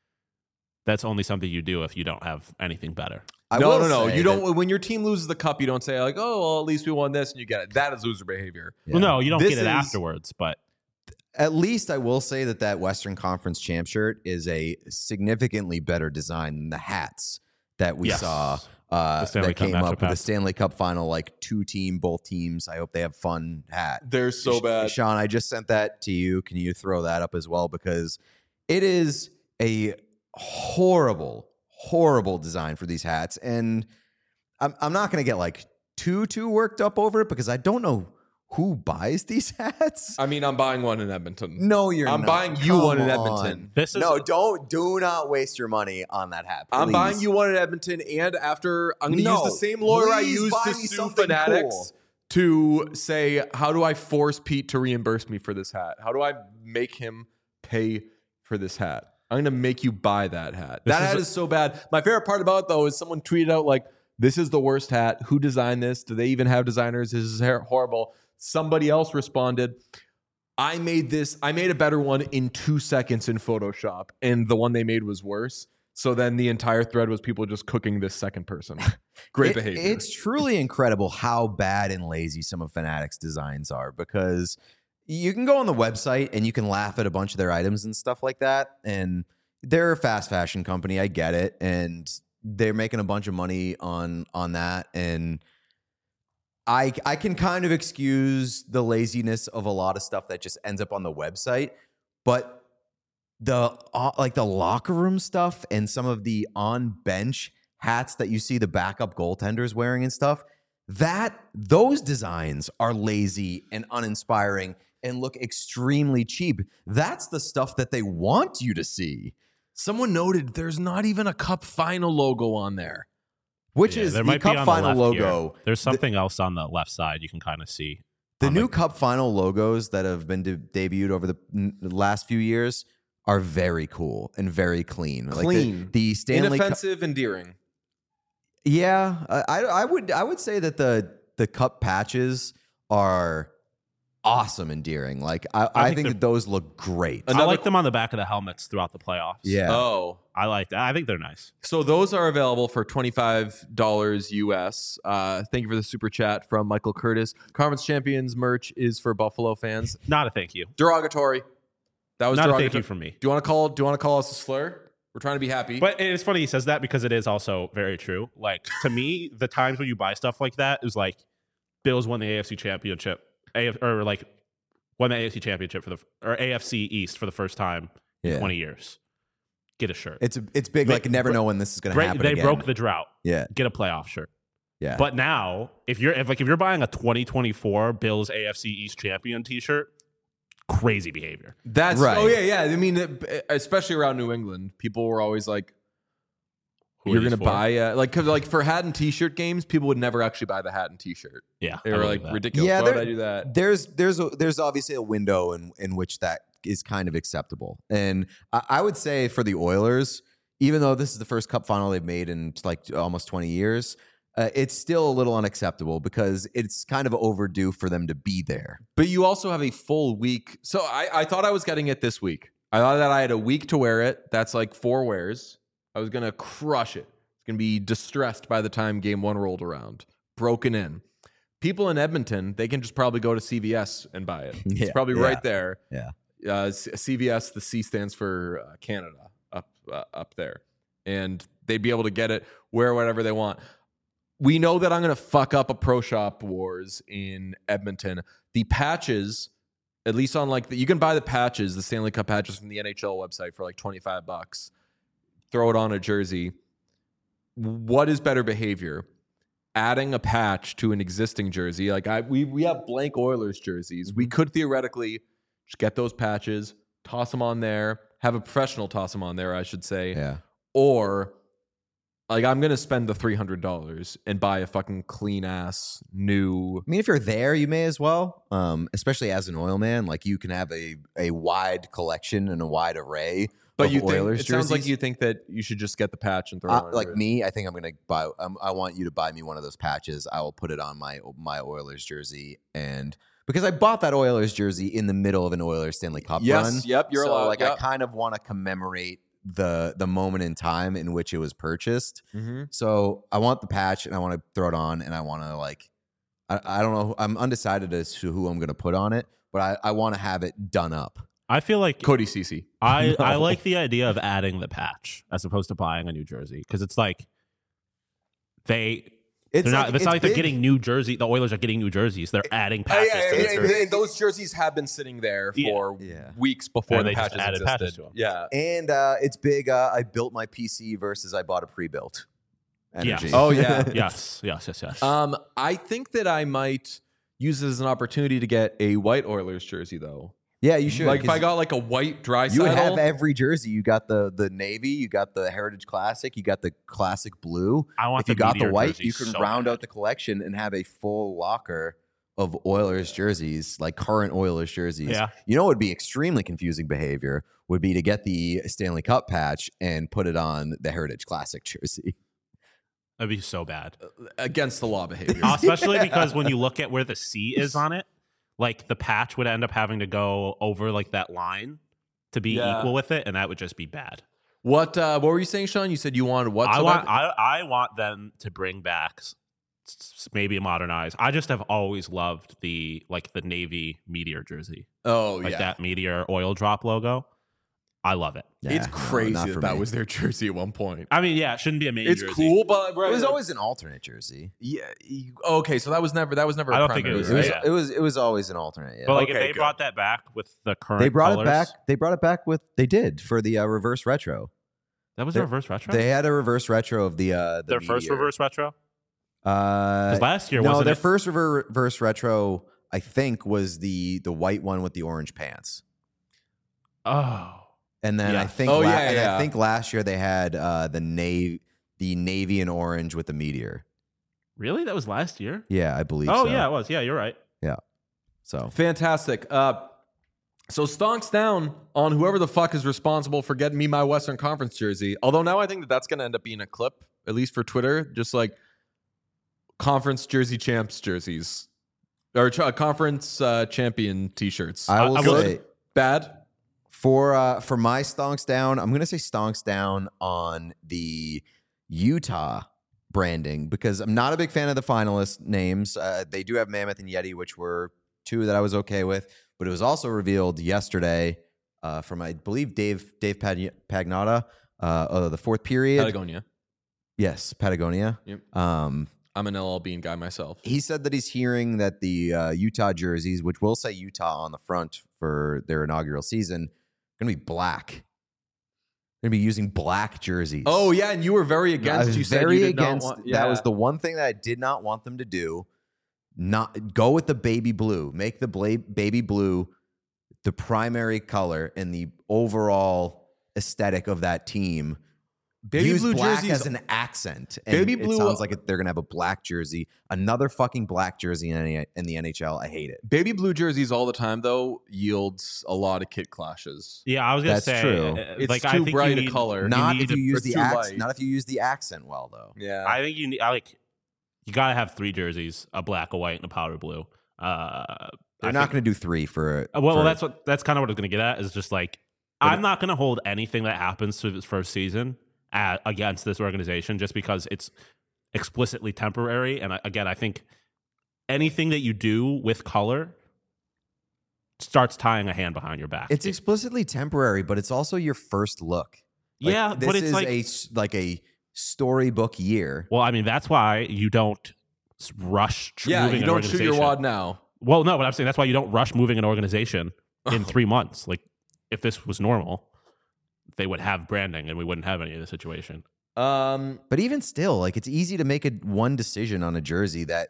that's only something you do if you don't have anything better. I no, will no, no. say You that- don't. When your team loses the cup, you don't say like, "Oh, well, at least we won this," and you get it. That is loser behavior. Yeah. Well, no, you don't This get it is- afterwards, but At least I will say that that Western Conference champ shirt is a significantly better design than the hats that we Yes. saw uh, The Stanley that Cup came matchup up with the hats. Stanley Cup final, like two team, both teams. I hope they have fun hat. They're so Sh- bad. Sean, I just sent that to you. Can you throw that up as well? Because it is a horrible, horrible design for these hats. And I'm, I'm not going to get like too, too worked up over it because I don't know who buys these hats. I mean, I'm buying one in Edmonton. No, you're I'm not. buying you one in Come Edmonton. on. this is No, don't, do not waste your money on that hat. I'm please. buying you one in Edmonton, and after I'm going to No, use the same lawyer I please used buy to me sue something Fanatics cool. to say, how do I force Pete to reimburse me for this hat? How do I make him pay for this hat? I'm going to make you buy that hat. This that is hat a- is so bad. My favorite part about it, though, is someone tweeted out, like, this is the worst hat. Who designed this? Do they even have designers? This is her- horrible. Somebody else responded, I made this, I made a better one in two seconds in Photoshop, and the one they made was worse. So then the entire thread was people just cooking this second person. Great It- behavior. It's truly incredible how bad and lazy some of Fanatics designs are because you can go on the website and you can laugh at a bunch of their items and stuff like that. And they're a fast fashion company. I get it. And they're making a bunch of money on on that. And I I can kind of excuse the laziness of a lot of stuff that just ends up on the website, but the uh, like the locker room stuff and some of the on bench hats that you see the backup goaltenders wearing and stuff, that those designs are lazy and uninspiring and look extremely cheap. That's the stuff that they want you to see, Someone noted there's not even a cup final logo on there. which yeah, is there the might be cup on final the left here. logo. There's something else on the left side you can kind of see. The on new Cup Final logos that have been de- debuted over the, n- the last few years are very cool and very clean. Like the- Clean. the, Stanley Cup, Inoffensive, endearing. Yeah, I, I would I would say that the the cup patches are awesome, endearing. Like I, I, I think, think that those look great. I like them on the back of the helmets throughout the playoffs. Yeah. Oh, I like that. I think they're nice. so those are available for twenty-five dollars U S. Uh, thank you for the super chat from Michael Curtis. Conference Champions merch is for Buffalo fans. Not a thank you. Derogatory. That was Not a derogatory. thank you from me. Do you want to call? Do you want to call us a slur? We're trying to be happy. But it's funny he says that because it is also very true. Like, to me, the times when you buy stuff like that is like Bills won the A F C Championship, A F, or like won the A F C Championship for the or A F C East for the first time in Yeah. twenty years. Get a shirt. It's it's big. They- like never know when this is going to Break- happen. they again. broke the drought. Yeah, Get a playoff shirt. yeah. But now, if you're if like if you're buying a twenty twenty-four Bills A F C East champion T-shirt, crazy behavior. That's Right. Oh yeah, yeah. I mean, it- especially around New England, people were always like, Who are "You're these going to for? buy uh, like cause like for hat and T-shirt games, people would never actually buy the hat and T-shirt. Yeah, They I were believe like that. ridiculous. Yeah, Why would they're- I do that? there's there's a, there's obviously a window in in which that is kind of acceptable, and I, I would say for the Oilers, even though this is the first Cup final they've made in like almost twenty years, uh, it's still a little unacceptable because it's kind of overdue for them to be there. But you also have a full week. So I, I thought I was getting it this week. I thought that I had a week to wear it. That's like four wears. I was going to crush it. It's going to be distressed by the time game one rolled around. Broken in. People in Edmonton, they can just probably go to C V S and buy it. It's Yeah, probably yeah, right there. yeah. Uh, C- CVS, the C stands for uh, Canada up uh, up there. And they'd be able to get it, wear whatever they want. We know that I'm going to fuck up a Pro Shop Wars in Edmonton. The patches, at least on like the, you can buy the patches, the Stanley Cup patches from the N H L website for like twenty-five bucks. Throw it on a jersey. What is better behavior? Adding a patch to an existing jersey. Like I we we have blank Oilers jerseys. We could theoretically just get those patches, toss them on there, have a professional toss them on there, I should say. Yeah. Or like I'm gonna spend the three hundred dollars and buy a fucking clean ass new. I mean, if you're there, you may as well. Um, especially as an oil man, like you can have a a wide collection and a wide array. But of you think Oilers it sounds like jerseys. you think that you should just get the patch and throw it Uh, on like it. me, I think I'm gonna buy. Um, I want you to buy me one of those patches. I will put it on my my Oilers jersey, and because I bought that Oilers jersey in the middle of an Oilers Stanley Cup Yes, run. yep, you're so allowed, like I yep. kind of want to commemorate the the moment in time in which it was purchased. Mhm. So I want the patch, and I want to throw it on, and I want to like. I, I don't know. I'm undecided as to who I'm gonna put on it, but I, I want to have it done up. I feel like Cody Cece. I, I No. like the idea of adding the patch as opposed to buying a new jersey because it's like they It's they're not. like- it's, not like they're big. getting new jersey. The Oilers are getting new jerseys. They're adding Hey, patches. hey, to hey, the hey, jersey. hey, those jerseys have been sitting there Yeah. for Yeah. weeks before And the they just patches added existed. patches to 'em. Yeah. And uh, it's big. Uh, I built my P C versus I bought a pre-built. Energy. Yes. Oh yeah. yes, yes, yes, yes. Um, I think that I might use this as an opportunity to get a white Oilers jersey though. Yeah, you should. Like if 'cause I got like a white dry you would have every jersey. You got the the navy, you got the Heritage Classic, you got the classic blue. I want If you the got the Meteor white, jersey you can so round bad. out the collection and have a full locker of Oilers jerseys, like current Oilers jerseys. Yeah. You know what would be extremely confusing behavior would be to get the Stanley Cup patch and put it on the Heritage Classic jersey. That'd be so bad. against the law behavior. Uh, especially Yeah. because when you look at where the C is on it, like the patch would end up having to go over like that line to be Yeah. equal with it, and that would just be bad. What uh, what were you saying, Sean? You said you wanted what? I so want bad? I, I want them to bring back s- s- maybe modernize. I just have always loved the like the Navy Meteor jersey, oh like yeah. that Meteor oil drop logo. I love it. It's Nah, no, crazy not that for that me. was their jersey at one point. I mean, yeah, it shouldn't be a main It's jersey. cool, but right, It was like- always an alternate jersey. yeah. you- Okay, so that was never that was never. I a don't think it primary, was, It was, right? yeah. it was it was always an alternate. Yeah. But like Okay, if they good. brought that back with the current, they brought colors, it back. They brought it back with they did for the uh, reverse retro. That was they- a reverse retro. They had a reverse retro of the uh the Their first Meteor. reverse retro. Uh, Because last year no, wasn't their it? first rever- reverse retro, I think, was the the white one with the orange pants. Oh, And then I Yeah. think, Oh, la- yeah, and yeah. I think last year they had uh, the navy, the navy and orange with the meteor. really? That was last year. Yeah, I believe. Oh so. yeah, it was. Yeah, you're right. So Fantastic. Uh, So stonks down on whoever the fuck is responsible for getting me my Western Conference jersey. Although now I think that that's going to end up being a clip, at least for Twitter, just like conference jersey champs jerseys or ch- conference uh, champion t-shirts. I will I will- say Bad. for uh, for my stonks down, I'm gonna say stonks down on the Utah branding because I'm not a big fan of the finalist names. Uh, they do have Mammoth and Yeti, which were two that I was okay with, but it was also revealed yesterday uh, from I believe Dave Dave Pag- Pagnotta, uh, uh, the fourth period. Patagonia. Yes, Patagonia. Yep. Um, I'm an L L Bean guy myself. he said that he's hearing that the uh, Utah jerseys, which will say Utah on the front for their inaugural season, going to be black. Going to be using black jerseys. Oh yeah, and you were very I against. was You said very you did against. Not want, That yeah. was the one thing that I did not want them to do. Not go with the baby blue. Make the bla- baby blue the primary color and the overall aesthetic of that team. baby Use blue black jerseys. as an accent. And Baby it blue- sounds like it- they're gonna have a black jersey, another fucking black jersey in, any, in the N H L. I hate it. Baby blue jerseys all the time though yields a lot of kit clashes. Yeah, I was gonna That's say true. uh, It's like too I think bright you a need, color. Not need if you to- use it's the too accent. light. Not if you use the accent well, though. Yeah. I think you need. I like. You gotta have three jerseys: a black, a white, and a powder blue. Uh, They're I not think- going to do three for. Uh, Well, for- that's what that's kind of what I was going to get at. Is just like But I'm it- not going to hold anything that happens to his first season at, against this organization just because it's explicitly temporary. And I, again, I think anything that you do with color starts tying a hand behind your back. It's It- explicitly temporary, but it's also your first look. Like, yeah, this but it's is like a s- like a storybook year. well, I mean that's why you don't s- rush tr- yeah, moving you an don't shoot your organization. wad now. Well, no, but I'm saying that's why you don't rush moving an organization in three months. Like if this was normal, they would have branding and we wouldn't have any of the situation. Um, But even still, like it's easy to make a one decision on a jersey that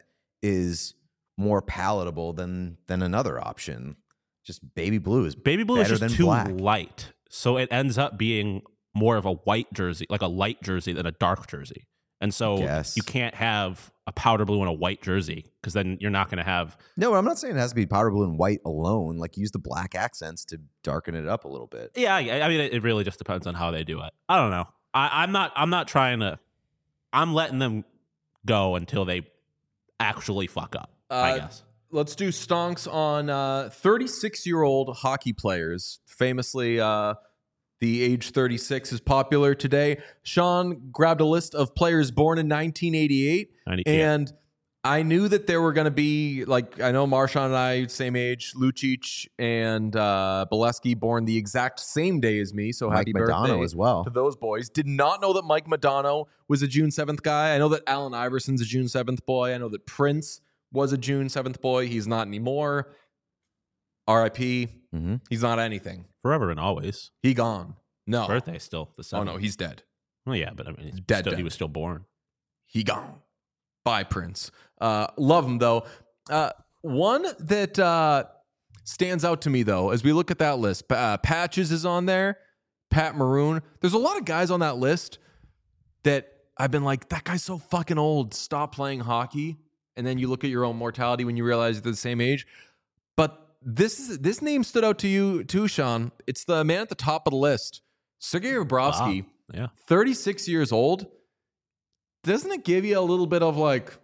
is more palatable than than another option. Just baby blue is Baby blue better is than just too black. light, so it ends up being more of a white jersey, like a light jersey than a dark jersey. And so Guess. you can't have a powder blue and a white jersey because then you're not going to have. No, I'm not saying it has to be powder blue and white alone. Like use the black accents to darken it up a little bit. Yeah, I I mean, it it really just depends on how they do it. I don't know. I, I'm not. I'm not trying to. I'm letting them go until they actually fuck up. I Uh, guess. let's do stonks on uh, thirty-six-year-old hockey players. Famously, uh, the age thirty-six is popular today. Sean grabbed a list of players born in nineteen eighty-eight, I need- yeah. and I knew that there were going to be, like, I know Marshawn and I, same age, Lucic and uh, Bolesky born the exact same day as me, so Mike happy Madonna birthday as well. to those boys. Did not know that Mike Madonna was a June seventh guy. I know that Allen Iverson's a June seventh boy. I know that Prince was a June seventh boy. He's not anymore. R I P. Mhm. He's not anything. Forever and always. He gone. No. Birthday still the Oh, seventh. no, he's dead. Well, yeah, but I mean, he's Dead, still, dead. he was still born. He gone. Bye, Prince. Uh, love him, though. Uh, one that uh, stands out to me, though, as we look at that list, uh, Patches is on there, Pat Maroon. There's a lot of guys on that list that I've been like, that guy's so fucking old. Stop playing hockey. And then you look at your own mortality when you realize they're the same age. But this is, this name stood out to you too, Sean. It's the man at the top of the list, Sergei Bobrovsky, Wow. Yeah. thirty-six years old. Doesn't it give you a little bit of like,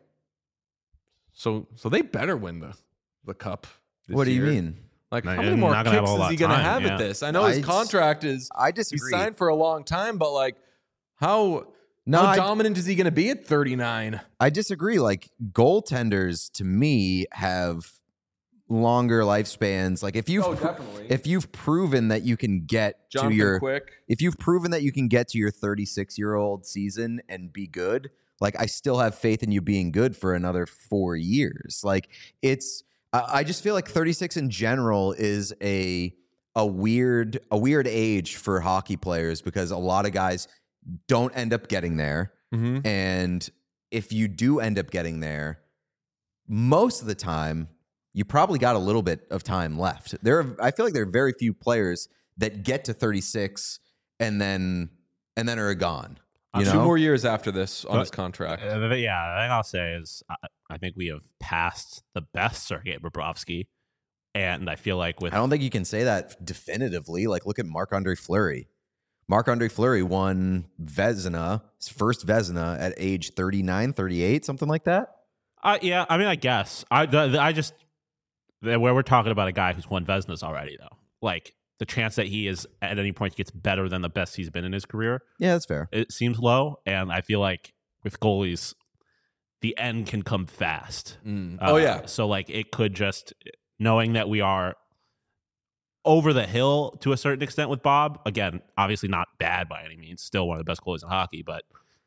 so so they better win the the cup? This What do you year? mean? Like, No, how you're many more not gonna have kicks a is lot he of going to time, have yeah. at this? I know his I- contract is I he disagree. signed for a long time, but like, how No, how I- dominant is he going to be at thirty-nine? I disagree. Like goaltenders to me have longer lifespans. Like if you've Oh, definitely. if you've proven that you can get Jonathan to your Quick. if you've proven that you can get to your thirty-six year old season and be good, like I still have faith in you being good for another four years. Like it's I I just feel like thirty-six in general is a a weird a weird age for hockey players because a lot of guys don't end up getting there. Mm-hmm. And if you do end up getting there, most of the time, you probably got a little bit of time left. There, are, I feel like there are very few players that get to thirty-six and then and then are gone. You Two know, more years after this on But- his contract. Uh, yeah, the thing I'll say is I, I think we have passed the best Sergei Bobrovsky And I feel like with I don't think you can say that definitively. Like, look at Marc-Andre Fleury. Marc-Andre Fleury won Vezina, his first Vezina at age thirty-nine, thirty-eight, something like that. Uh, yeah, I mean, I guess I the, the, I just where we're talking about a guy who's won Vezinas already, though. Like the chance that he is at any point gets better than the best he's been in his career. Yeah, that's fair. It seems low, and I feel like with goalies, the end can come fast. Mm. Uh, Oh yeah, so like it could just knowing that we are over the hill to a certain extent with Bob. Again, obviously not bad by any means. Still one of the best goalies in hockey, but.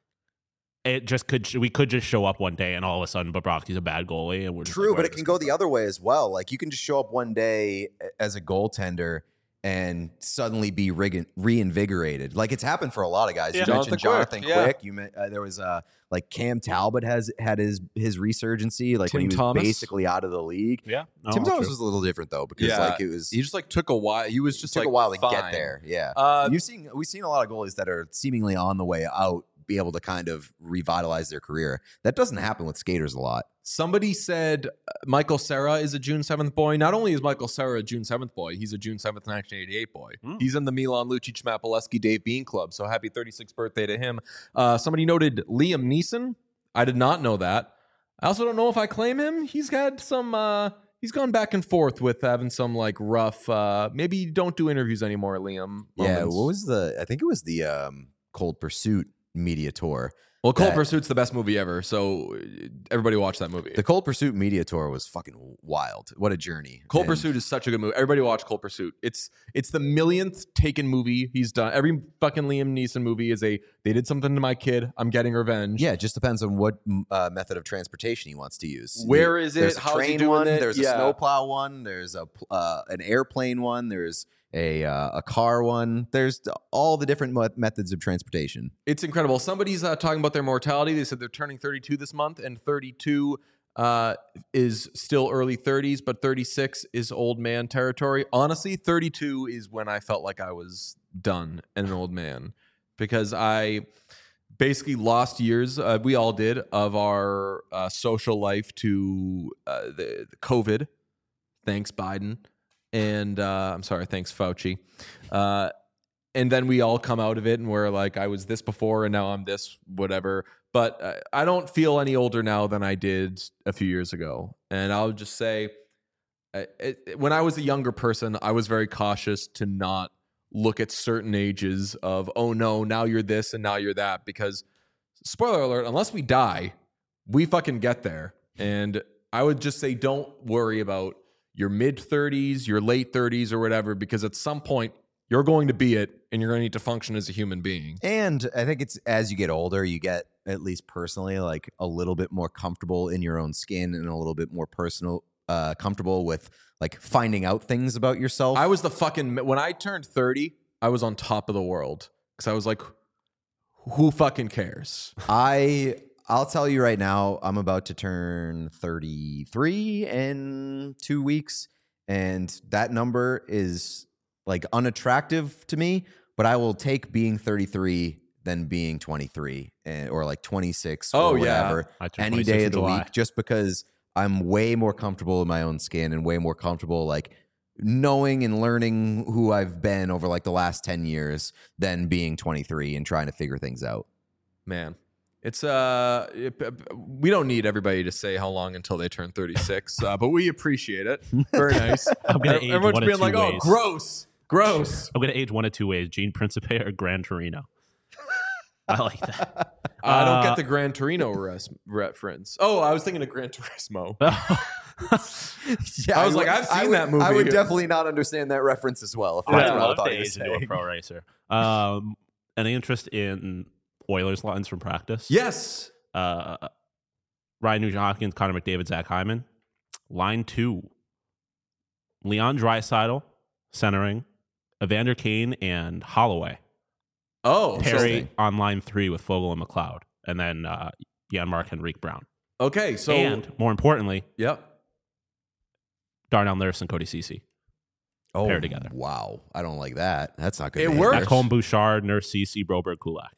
It just could we could just show up one day and all of a sudden Bobrovsky's a bad goalie and we're just True, like, but it can go the other way as well. Like you can just show up one day as a goaltender and suddenly be re- reinvigorated. Like it's happened for a lot of guys. Yeah. You Jonathan mentioned Jonathan Quick, yeah. Quick. You met, uh, there was uh, like Cam Talbot has had his his resurgency. Like Tim when he was Thomas. basically out of the league. yeah. No, Tim true. Thomas was a little different though because Yeah. like it was he just like took a while. He was just took like a while to fine. get there. Yeah, Uh, you've seen we've seen a lot of goalies that are seemingly on the way out be able to kind of revitalize their career. That doesn't happen with skaters a lot. Somebody said uh, Michael Cera is a June seventh boy. Not only is Michael Cera a June seventh boy, he's a June seventh, nineteen eighty-eight boy. Mm. He's in the Milan Lucic, Mapileski, Dave Bean Club. So happy thirty-sixth birthday to him. Uh, somebody noted Liam Neeson. I did not know that. I also don't know if I claim him. He's had some, uh, he's gone back and forth with having some like rough, uh, maybe don't do interviews anymore, Liam. Yeah, moments. what was the? I think it was the um, Cold Pursuit media tour. Well, Cold that- Pursuit's the best movie ever. So uh, everybody watch that movie. The Cold Pursuit media tour was fucking wild. What a journey! Cold And Pursuit is such a good movie. Everybody watch Cold Pursuit. It's it's the millionth taken movie he's done. Every fucking Liam Neeson movie is a they did something to my kid. I'm getting revenge. Yeah, it just depends on what uh, method of transportation he wants to use. Where is it? There's a How's he train doing one. it? There's Yeah. a snowplow one. There's a pl- uh, an airplane one. There's a uh, a car one. There's all the different mo- methods of transportation. It's incredible. Somebody's uh, talking about their mortality. They said they're turning thirty-two this month, and thirty-two uh, is still early thirties, but thirty-six is old man territory. Honestly, thirty-two is when I felt like I was done and an old man because I basically lost years. Uh, we all did of our uh, social life to uh, the, the COVID. Thanks, Biden. And uh, I'm sorry, thanks, Fauci. Uh, and then we all come out of it and we're like, I was this before and now I'm this, whatever. But uh, I don't feel any older now than I did a few years ago. And I'll just say, uh, it, it- when I was a younger person, I was very cautious to not look at certain ages of, oh no, now you're this and now you're that. Because, spoiler alert, unless we die, we fucking get there. And I would just say, don't worry about your mid thirties, your late thirties, or whatever, because at some point you're going to be it and you're going to need to function as a human being. And I think it's as you get older, you get, at least personally, like a little bit more comfortable in your own skin and a little bit more personal, uh, comfortable with like finding out things about yourself. I was the fucking, when I turned thirty, I was on top of the world because I was like, who fucking cares? I I'll tell you right now, I'm about to turn thirty-three in two weeks, and that number is like unattractive to me. But I will take being thirty-three than being twenty-three and, or like twenty-six Oh, or yeah. whatever I turned any twenty-six day in of the July. week, just because I'm way more comfortable in my own skin and way more comfortable like knowing and learning who I've been over like the last ten years than being twenty-three and trying to figure things out. Man, it's uh, it, we don't need everybody to say how long until they turn thirty-six, uh, but we appreciate it. Very nice. I'm gonna age Everyone's one of being two like, "Oh, ways. gross, gross." I'm gonna age one of two ways: Gene Principe or Gran Torino. I like that. I don't Uh, get the Gran Torino res- reference. Oh, I was thinking of Gran Turismo. Yeah, I was like, would- I've seen I would- that movie. I would definitely not understand that reference as well. If I that's would what I love thought to you were age into a saying. pro racer. Um, any interest in Oilers lines from practice? Yes. Uh, Ryan Nugent-Hopkins, Connor McDavid, Zach Hyman. Line two: Leon Draisaitl, centering, Evander Kane, and Holloway. Oh, Perry so- on line three with Fogle and McLeod, and then uh, Jan-Mark Henrique Brown. Okay, so and more importantly, yep. Darnell Nurse and Cody Ceci. Oh, Pair together. Wow, I don't like that. That's not good. It behavior. works. Macomb, Bouchard, Nurse, Ceci, Broberg, Kulak.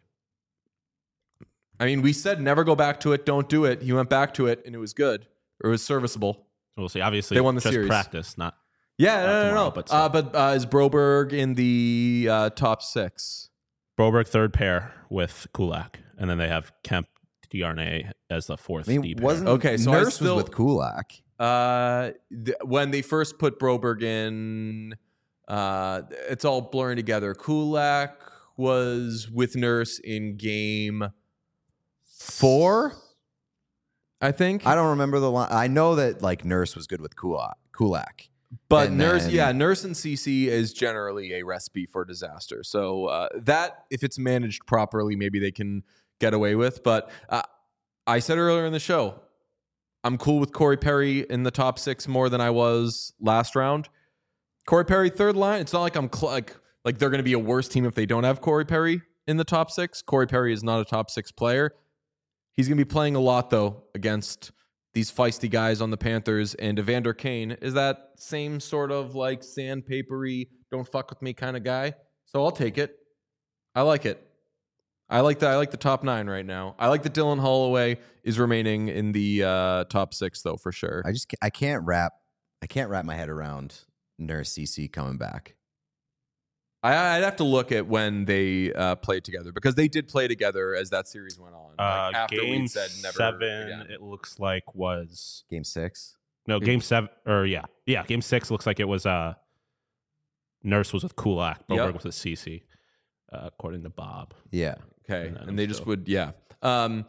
I mean, we said never go back to it, don't do it. He went back to it, and it was good, or it was serviceable. We'll see. Obviously, They won the just series. practice, not Yeah, Not no, no, tomorrow, no. but uh, still. but uh, is Broberg in the uh, top six? Broberg third pair with Kulak, and then they have Kemp Darnay as the fourth. I mean, D pair. wasn't Okay, so I Nurse still- was with Kulak? Uh, th- when they first put Broberg in, uh, it's all blurring together. Kulak was with Nurse in game four, I think. I don't remember the line. I know that like Nurse was good with Kulak. Kulak. But And Nurse, then- yeah, Nurse and C C is generally a recipe for disaster. So uh, that, if it's managed properly, maybe they can get away with. But uh, I said earlier in the show, I'm cool with Corey Perry in the top six more than I was last round. Corey Perry third line. It's not like I'm cl- like like they're going to be a worse team if they don't have Corey Perry in the top six. Corey Perry is not a top six player. He's going to be playing a lot though against these feisty guys on the Panthers, and Evander Kane is that same sort of like sandpapery, don't fuck with me kind of guy. So I'll take it. I like it. I like the I like the top nine right now. I like that Dylan Holloway is remaining in the uh, top six though for sure. I just ca- I can't wrap I can't wrap my head around Nurse C C coming back. I, I'd have to look at when they uh, played together because they did play together as that series went on. Uh, Like, after game we'd said never seven, again. it looks like was Game six. no game seven or yeah, yeah. Game six looks like it was. Uh, Nurse was with Kulak. Broberg Yep. was with C C, uh, according to Bob. Yeah. Okay, And then and they I'm just still- would, yeah. Um,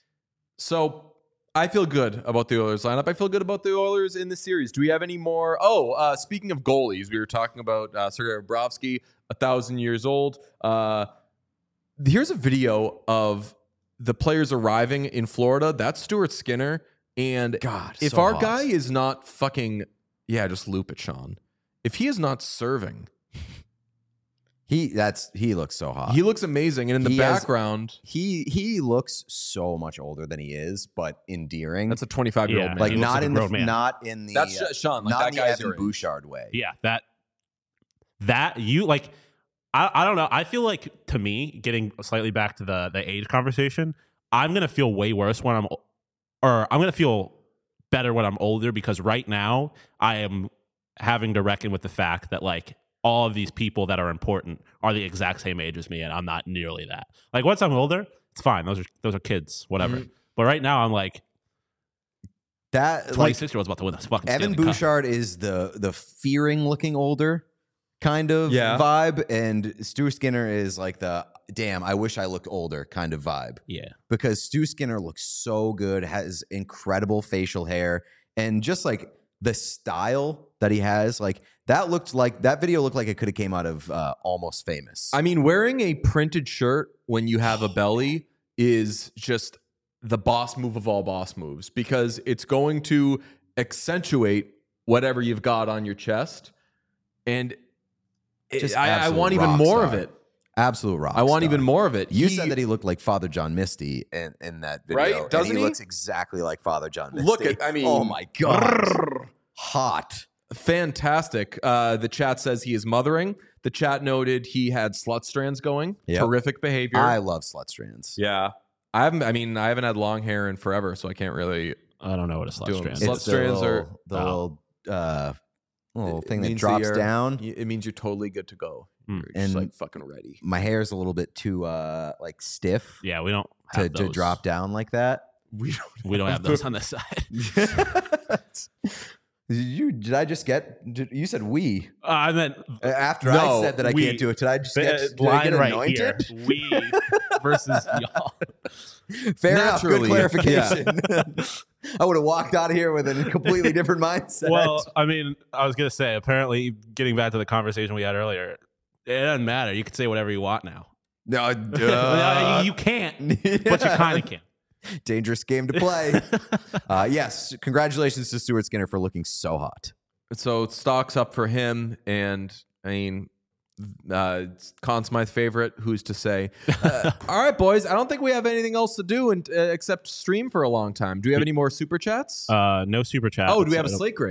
so I feel good about the Oilers lineup. I feel good about the Oilers in the series. Do we have any more? Oh, uh, speaking of goalies, we were talking about uh, Sergei Bobrovsky, a thousand years old. Uh, here's a video of the players arriving in Florida. That's Stuart Skinner. And God, if so our hot. guy is not fucking, yeah, just loop it, Sean. If he is not serving, He that's he looks so hot. he looks amazing. And in the He has- background, he he looks so much older than he is, but endearing. that's a twenty-five year old Yeah. man. like he looks not like a in the grown man. not in the That's uh, just- Sean, like not that in the guy's Evan your age. Bouchard way. Yeah, that that you like. I, I don't know. I feel like to me, getting slightly back to the the age conversation, I'm gonna feel way worse when I'm, or I'm gonna feel better when I'm older because right now I am having to reckon with the fact that like all of these people that are important are the exact same age as me, and I'm not nearly that. Like once I'm older, it's fine. Those are those are kids, whatever. Mhm. But right now, I'm like That like twenty-six year olds about to win this fucking Evan Stanley Cup. Bouchard is the the fearing looking older kind of Yeah. vibe, and Stu Skinner is like the damn I wish I looked older kind of vibe. Yeah, Because Stu Skinner looks so good, has incredible facial hair, and just like the style that he has, like that looked like that video looked like it could have came out of uh, Almost Famous. I mean, wearing a printed shirt when you have a belly is just the boss move of all boss moves because it's going to accentuate whatever you've got on your chest. And it- Just I, I absolute want even rock more star. of it. Absolute rock. I want star. even more of it. You He- said that he looked like Father John Misty in, in that video. Right? and Doesn't he, he? looks exactly like Father John Misty. Look at, I mean, oh my God. Hot. fantastic. Uh, the chat says he is mothering. The chat noted he had slut strands going. Yep. Terrific behavior. I love slut strands. yeah. I haven't, I mean, I haven't had long hair in forever, so I can't really. I don't know what a slut Doing strand Slut It's is. the strands little, are- the Oh. little, uh, little It thing that means drops you're- down. It means you're totally good to go. Mm. You're just And- like fucking ready. My hair is a little bit too uh, like stiff Yeah, we don't to, have to those. drop down like that. We don't. We don't have those on this side. Did you did I just get? Did, you said we Uh, I meant after No, I said that I we. can't do it. Did I just get, the did I line get right anointed? here. We versus y'all. Fair enough. Good Naturally, clarification. I would have walked out of here with a completely different mindset. Well, I mean, I was gonna say. Apparently, getting back to the conversation we had earlier, it doesn't matter. You can say whatever you want now. no, No, you, you can't, but you kind of can. Dangerous game to play. uh, yes, congratulations to Stuart Skinner for looking so hot. So stocks up for him, and I mean, uh, Conn Smythe favorite. Who's to say? Uh, all right, boys. I don't think we have anything else to do and, uh, except stream for a long time. Do we have any more super chats? Uh, no super chat. oh, do we but have a I don't- slate grade?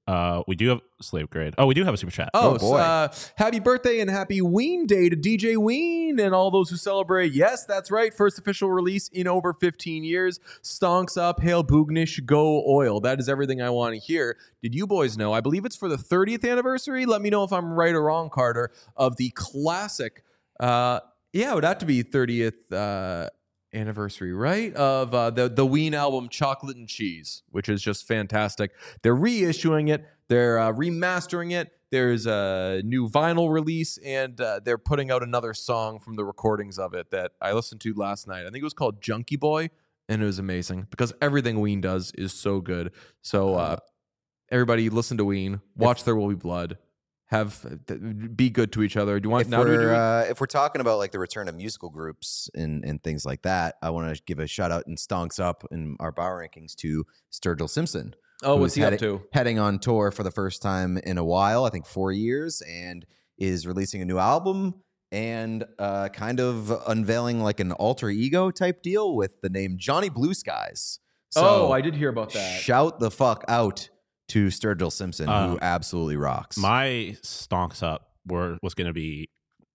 Uh, we do have Slave Grade. Oh, we do have a super chat. Oh, Oh, boy. Uh, happy birthday and happy Ween Day to D J Ween and all those who celebrate. Yes, that's right. First official release in over fifteen years. Stonks up, hail Boognish, go oil. That is everything I want to hear. Did you boys know? I believe it's for the thirtieth anniversary. Let me know if I'm right or wrong, Carter, of the classic. Uh, yeah, it would have to be thirtieth uh, anniversary, right? Of uh, the, the Ween album, Chocolate and Cheese, which is just fantastic. They're reissuing it. They're uh, remastering it. There's a new vinyl release, and uh, they're putting out another song from the recordings of it that I listened to last night. I think it was called Junkie Boy, and it was amazing because everything Ween does is so good. So uh, everybody listen to Ween. Watch There Will Be Blood. Have be good to each other. Do you want If now? Do we do we're it? uh, if we're talking about like the return of musical groups and and things like that, I want to give a shout out and stonks up in our Bauer rankings to Sturgill Simpson. Oh, what's who's he up heading, to? Heading on tour for the first time in a while, I think four years, and is releasing a new album and uh, kind of unveiling like an alter ego type deal with the name Johnny Blue Skies. So oh, I did hear about that. shout the fuck out to Sturgill Simpson, Uh, who absolutely rocks. My stonks up were was going to be,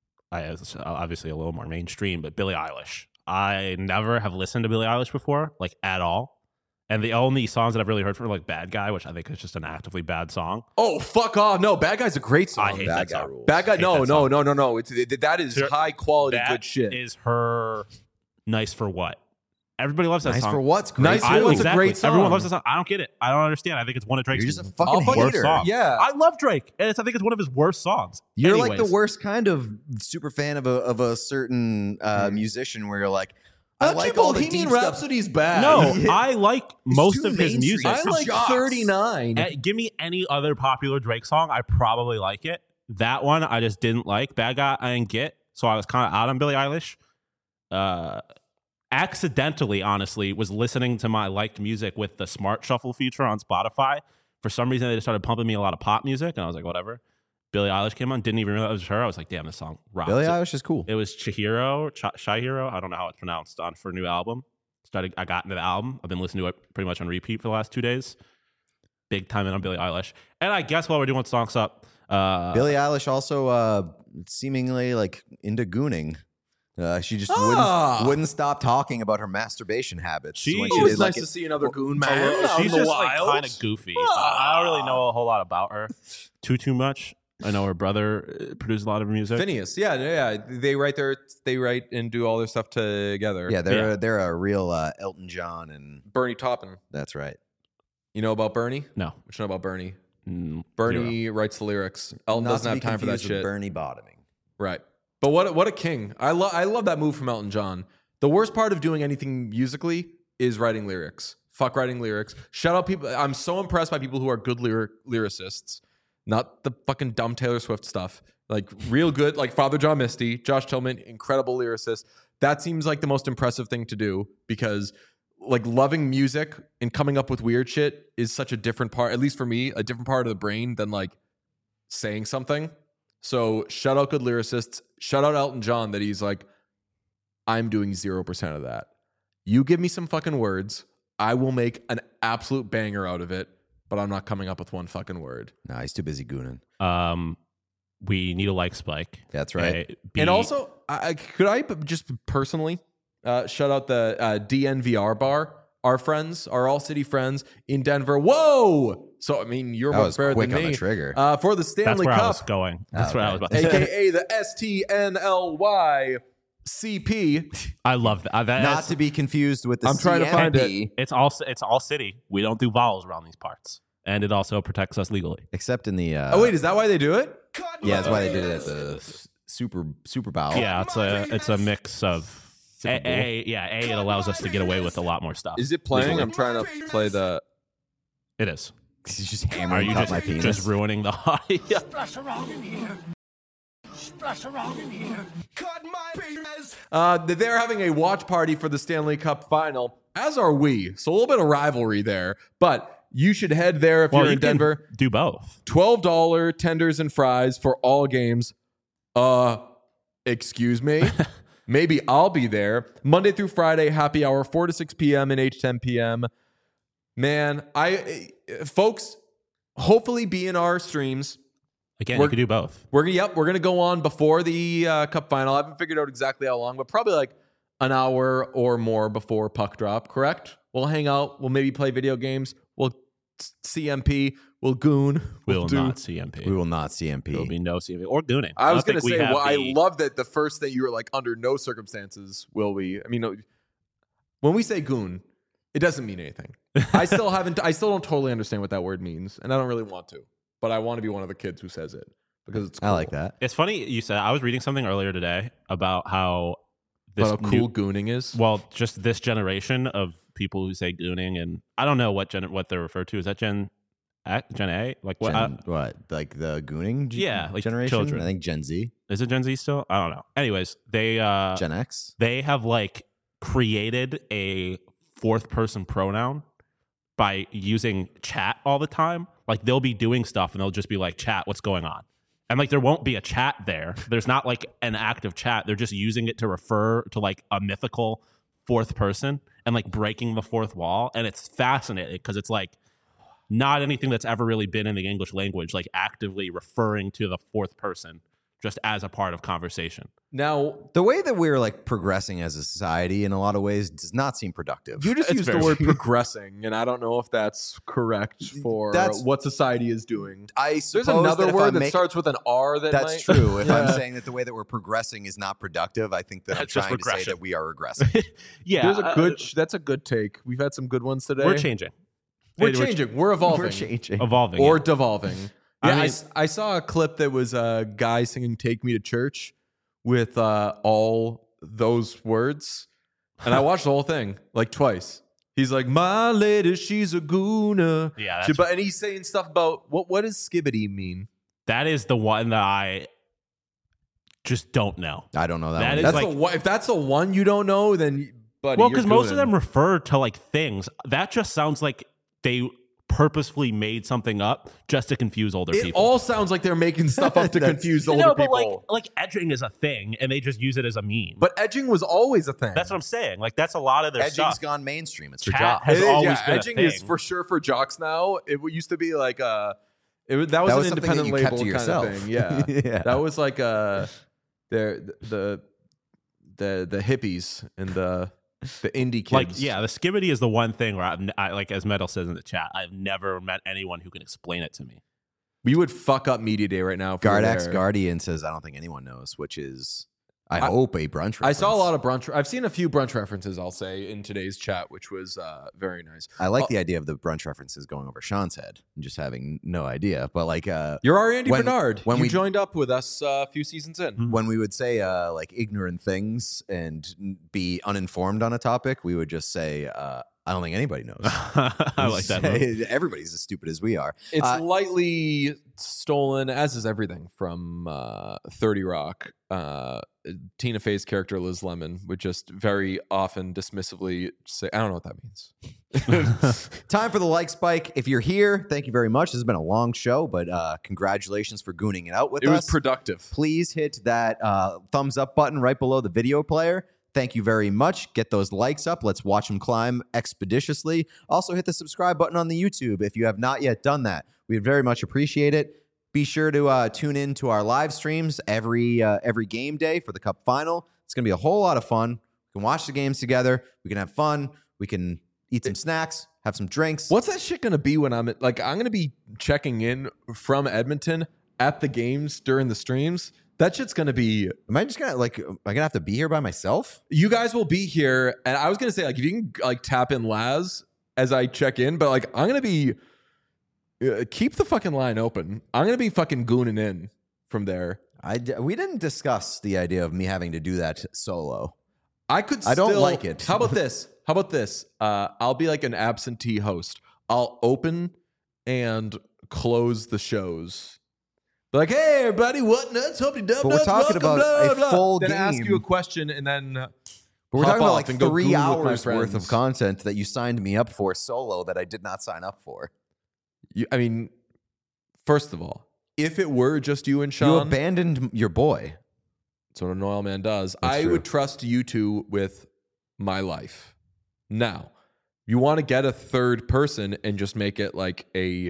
I obviously a little more mainstream, but Billie Eilish. I never have listened to Billie Eilish before, like at all. And the only songs that I've really heard from are like Bad Guy, which I think is just an actively bad song. Oh, fuck off! No, Bad Guy's a great song. I hate Bad that Guy song. rules. Bad Guy. hate No, that no, song. no, no, no. It's it, that is Sure. high quality That good shit. is her Nice for What? Everybody loves that Nice song. for what's great. Nice for I, What's a exactly. great song. Everyone loves that song. I don't get it. I don't understand. I think it's one of Drake's You're just a fucking I'll fucking hater. worst songs. Yeah. I love Drake, and it's, I think it's one of his worst songs. You're like Anyways. the worst kind of super fan of a of a certain uh, musician where you're like, I Actually, like all the Bohemian deep stuff. Rhapsody's bad. No, I like most too of his mainstream. music. I for like jocks. thirty-nine. Eh, give me any other popular Drake song, I probably like it. That one I just didn't like. Bad Guy I didn't get, so I was kind of out on Billie Eilish. Uh, accidentally, honestly, was listening to my liked music with the Smart Shuffle feature on Spotify. For some reason, they just started pumping me a lot of pop music, and I was like, whatever. Billie Eilish came on, didn't even realize it was her. I was like, damn, this song rocks. Billie Eilish is cool. It was Chihiro, Ch- Chihiro, I don't know how it's pronounced, on for a new album. Started, I got into the album. I've been listening to it pretty much on repeat for the last two days. Big time in on Billie Eilish. And I guess while we're doing Stonks Up, uh, Billie Eilish also uh, seemingly like into gooning. Uh, she just Ah. wouldn't wouldn't stop talking about her masturbation habits. She- when It's Oh, did, it's like, nice it- to see another goon a man. little- out she's in the just like wild. kind of goofy. I, I don't really know a whole lot about her too too much. I know her brother uh, produced a lot of her music. Phineas, yeah, yeah, yeah. They write their, they write and do all their stuff together. Yeah, they're Yeah. A, they're a real uh, Elton John, and Bernie Taupin. that's right. You know about Bernie? No. What you know about Bernie? Mm, Bernie writes the lyrics. Elton Not doesn't to have be time for that confused with shit. Bernie bottoming. Right. But what what a king. I love I love that move from Elton John. The worst part of doing anything musically is writing lyrics. Fuck writing lyrics. Shout out people. I'm so impressed by people who are good lyric lyricists. Not the fucking dumb Taylor Swift stuff. Like real good, like Father John Misty, Josh Tillman, incredible lyricist. That seems like the most impressive thing to do because like loving music and coming up with weird shit is such a different part, at least for me, a different part of the brain than like saying something. So shout out good lyricists. Shout out Elton John that he's like, I'm doing zero percent of that. You give me some fucking words. I will make an absolute banger out of it, but I'm not coming up with one fucking word. Nah, he's too busy gooning. Um, we need a like spike. That's right. Uh, be- And also, I, I- could I just personally uh, shout out the uh, D N V R bar? Our friends, our All City friends in Denver. Whoa! So, I mean, you're That much was better quick than on me. the trigger. Uh, for the that's Stanley where I Cup, was going. That's Oh, what I okay. was about to say. A K A the S T N L Y C P. I love that. Uh, that Not is- to be confused with the I'm trying to find it. C M P, It's all it's all city. We don't do vowels around these parts, and it also protects us legally. except in the. Uh, Oh, wait, is that why they do it? yeah, that's why they did it at the s- Super Super Bowl. Yeah, it's a it's a mix of Super a, Bowl. a yeah a. It allows us to get away with a lot more stuff. Is it playing? legally. I'm trying to play the. It is. He's just Are hammering you cut just my penis. just ruining the audio? Splash around in here. Splash around in here. Cut my penis. Uh, they're having a watch party for the Stanley Cup final, as are we. So a little bit of rivalry there. But you should head there if Well, you're you in can Denver. do both. twelve dollars tenders and fries for all games. Uh, excuse me. Maybe I'll be there. Monday through Friday, happy hour, four to six p.m. and eight to ten p.m. Man, I, folks, hopefully be in our streams. Again, We're- you could do both. We're yep, we're gonna go on before the uh, Cup final. I haven't figured out exactly how long, but probably like an hour or more before puck drop. Correct? We'll hang out. We'll maybe play video games. We'll C M P. We'll goon. We will do- not C M P. We will not C M P. There will be no C M P or gooning. I was don't gonna think we say, have well, I the- love that the first thing you were like, under no circumstances will we. I mean, no, when we say goon, it doesn't mean anything. I still haven't. I still don't totally understand what that word means, and I don't really want to. But I want to be one of the kids who says it because it's. Cool. I like that. It's funny you said. I was reading something earlier today about how this But how new- cool gooning is. well, just this generation of people who say gooning, and I don't know what gen what they're referred to. Is that Gen A? Gen A? Like what? Gen, uh, what? Like the gooning g- Yeah, like generation? children. I think Gen Z. is it Gen Z still? I don't know. Anyways, they uh, Gen X? they have like created a fourth person pronoun by using chat all the time. Like they'll be doing stuff and they'll just be like, chat, what's going on? And like there won't be a chat there. There's not like an active chat. They're just using it to refer to like a mythical fourth person and like breaking the fourth wall. And it's fascinating because it's like not anything that's ever really been in the English language, like actively referring to the fourth person just as a part of conversation. Now, The way that we're like progressing as a society in a lot of ways does not seem productive. you just It's used the very- word progressing, and I don't know if that's correct for That's- what society is doing. I There's suppose another that if word I'm that making- starts with an R that That's might- true. If I'm Yeah. saying that the way that we're progressing is not productive, I think that I'm That's just trying to say regression. that we are regressing. Yeah. There's a uh, good. that's a good take. We've had some good ones today. we're changing. We're We're changing. We're evolving. We're changing. Evolving. or yeah. devolving. I Yeah, I, mean- s- I saw a clip that was a guy singing "Take Me to Church" with uh, all those words, and I watched the whole thing like twice. He's like, "My lady, she's a gooner." Yeah, She- that's, but and he's saying stuff about what what does skibbity mean? that is the one that I just don't know. I don't know that, That one. is That's like- the one. If that's the one you don't know, then buddy, Well, you're because most of gooning. them refer to like things. That just sounds like they purposefully made something up just to confuse older It people. all sounds like they're making stuff up to That's- confuse older no, but people. like like edging is a thing, and they just use it as a meme. But edging was always a thing. that's what I'm saying. Like that's a lot of their Edging's stuff. gone mainstream. It's for Chat jobs. has It is, always yeah, been a edging is thing. for sure for jocks now. It w- used to be like uh it was, that was That an was something that independent you label kept to kind yourself. of thing. Yeah. Yeah. That was like uh the the the the hippies and the the indie kids. Like yeah, the skibbity is the one thing where I, I like as Metal says in the chat. I've never met anyone who can explain it to me. we would fuck up media day right now. If we were Gardax there. Guardian says, I don't think anyone knows, which is, I, I- hope, a brunch reference. I saw a lot of brunch. I've seen a few brunch references. I'll say in today's chat, which was uh, very nice. I like Oh. the idea of the brunch references going over Sean's head and just having no idea. But like, uh, You're our Andy When- Bernard. when you we- joined up with us uh, a few seasons in. when we would say uh, like ignorant things and be uninformed on a topic, we would just say, uh, I don't think anybody knows. I like that. move. Say, everybody's as stupid as we are. It's Uh, lightly stolen, as is everything from uh, thirty Rock. Uh, Tina Fey's character Liz Lemon would just very often dismissively say, "I don't know what that means." Time for the like spike. If you're here, thank you very much. This has been a long show, but uh, congratulations for gooning it out with It us. was productive. Please hit that uh, thumbs up button right below the video player. Thank you very much. Get those likes up. Let's watch them climb expeditiously. Also, hit the subscribe button on the YouTube if you have not yet done that. We'd very much appreciate it. Be sure to uh, tune in to our live streams every uh, every game day for the Cup Final. It's going to be a whole lot of fun. We can watch the games together. We can have fun. We can eat some snacks, have some drinks. What's that shit gonna be when I'm at, like I'm gonna be checking in from Edmonton at the games during the streams? That shit's gonna be. Am I just gonna like? Am I gonna have to be here by myself? You guys will be here, and I was gonna say like if you can like tap in Laz as I check in, but like I'm gonna be uh, keep the fucking line open. I'm gonna be fucking gooning in from there. I d- we didn't discuss the idea of me having to do that solo. I could. I don't still- like it. How about this? How about this? Uh, I'll be like an absentee host. I'll open and close the shows. Be like, hey, everybody, what nuts? Hope you dub But we're nuts. talking Welcome, about blah, a blah. full then ask game. you a question and then. uh, But we're hop talking about off like and go three goon with my hours worth of friends. content that you signed me up for solo that I did not sign up for. You, I mean, first of all, if it were just you and You Sean, abandoned your boy. that's what an oil man does. That's I true. would trust you two with my life. Now, you want to get a third person and just make it like a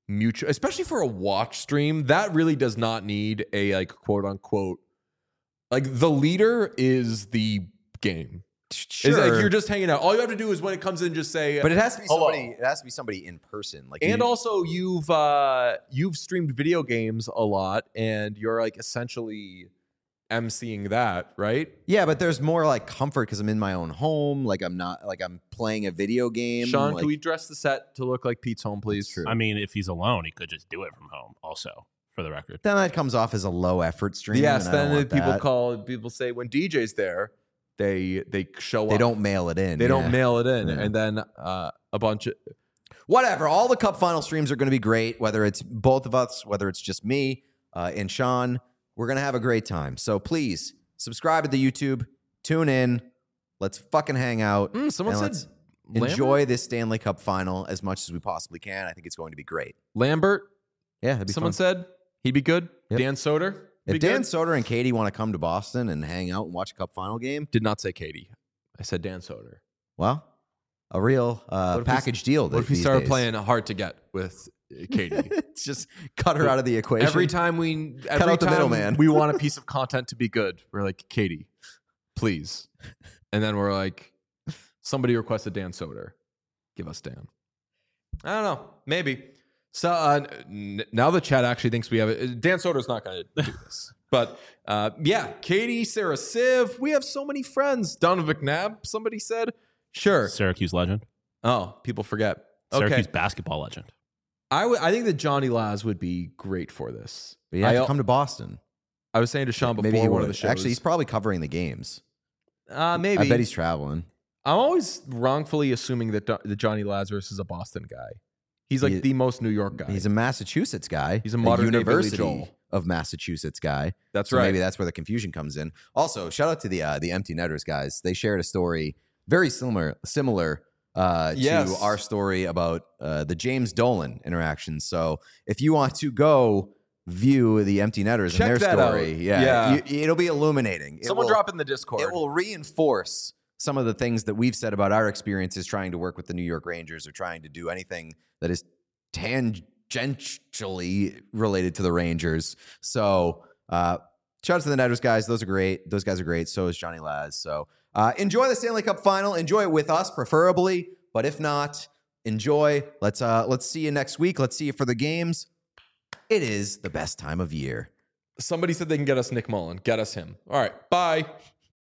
mutual, especially for a watch stream. That really does not need a like quote unquote like the leader is the game. Sure. It's like you're just hanging out. All you have to do is when it comes in, just say. But it has to be hello. somebody. It has to be somebody in person. Like, And you, also, you've uh, you've streamed video games a lot, and you're like essentially emceeing that, right? yeah, but there's more like comfort because I'm in my own home. Like I'm not like I'm playing a video game. Sean, like, can we dress the set to look like Pete's home, please? True. I mean, if he's alone, he could just do it from home. Also, for the record, Then that comes off as a low effort stream. Yes. and I don't Then want people that. call people say when D J's there, they they show They up. don't mail it in. They don't yeah. mail it in, Yeah. and then uh, a bunch of Whatever. All the cup final streams are going to be great. Whether it's both of us, whether it's just me uh, and Sean, we're going to have a great time. So please subscribe to the YouTube. Tune in. Let's fucking hang out. Mm, someone and said let's enjoy this Stanley Cup final as much as we possibly can. I think it's going to be great. Lambert. Yeah, it'd be Someone fun. said he'd be good. Yep. Dan Soder. If Dan Soder and Katie want to come to Boston and hang out and watch a cup final game, did not say Katie. I said Dan Soder. well, a real uh, What if we- package deal. What if we these started days. playing hard to get with uh, Katie? It's just cut her out of the equation. Every time we, every out the time middleman. we want a piece of content to be good, we're like, Katie, please. And then we're like, somebody requested Dan Soder. Give us Dan. I don't know. Maybe. So uh, n- now the chat actually thinks we have it. Dan Soder's not going to do this. But uh, yeah, Katie, Sarah Siv, we have so many friends. Donovan McNabb, somebody said. Sure. Syracuse legend, Oh, people forget. Okay. Syracuse basketball legend. I, w- I think that Johnny Laz would be great for this. But you have I, to come to Boston. I was saying to Sean before Maybe he one would. of the shows. Actually, he's probably covering the games. uh, maybe. I bet he's traveling. I'm always wrongfully assuming that, Do- that Johnny Lazarus is a Boston guy. He's like He- the most New York guy. He's a Massachusetts guy. He's a modern day Billy University Joel. of Massachusetts guy. That's So right. maybe that's where the confusion comes in. Also, shout out to the uh, the Empty Netters guys. They shared a story very similar similar uh, Yes. to our story about uh, the James Dolan interaction. So if you want to go view the Empty Netters Check and their that story, out. yeah, Yeah. you- it'll be illuminating. It Someone will- drop it in the Discord. It will reinforce some of the things that we've said about our experiences trying to work with the New York Rangers or trying to do anything that is tangentially related to the Rangers. So, uh, shout out to the Netters guys. Those are great. Those guys are great. So is Johnny Laz. So, uh, enjoy the Stanley Cup final. Enjoy it with us, preferably. But if not, enjoy. Let's uh, let's see you next week. Let's see you for the games. It is the best time of year. Somebody said they can get us Nick Mullen. Get us him. All right. Bye.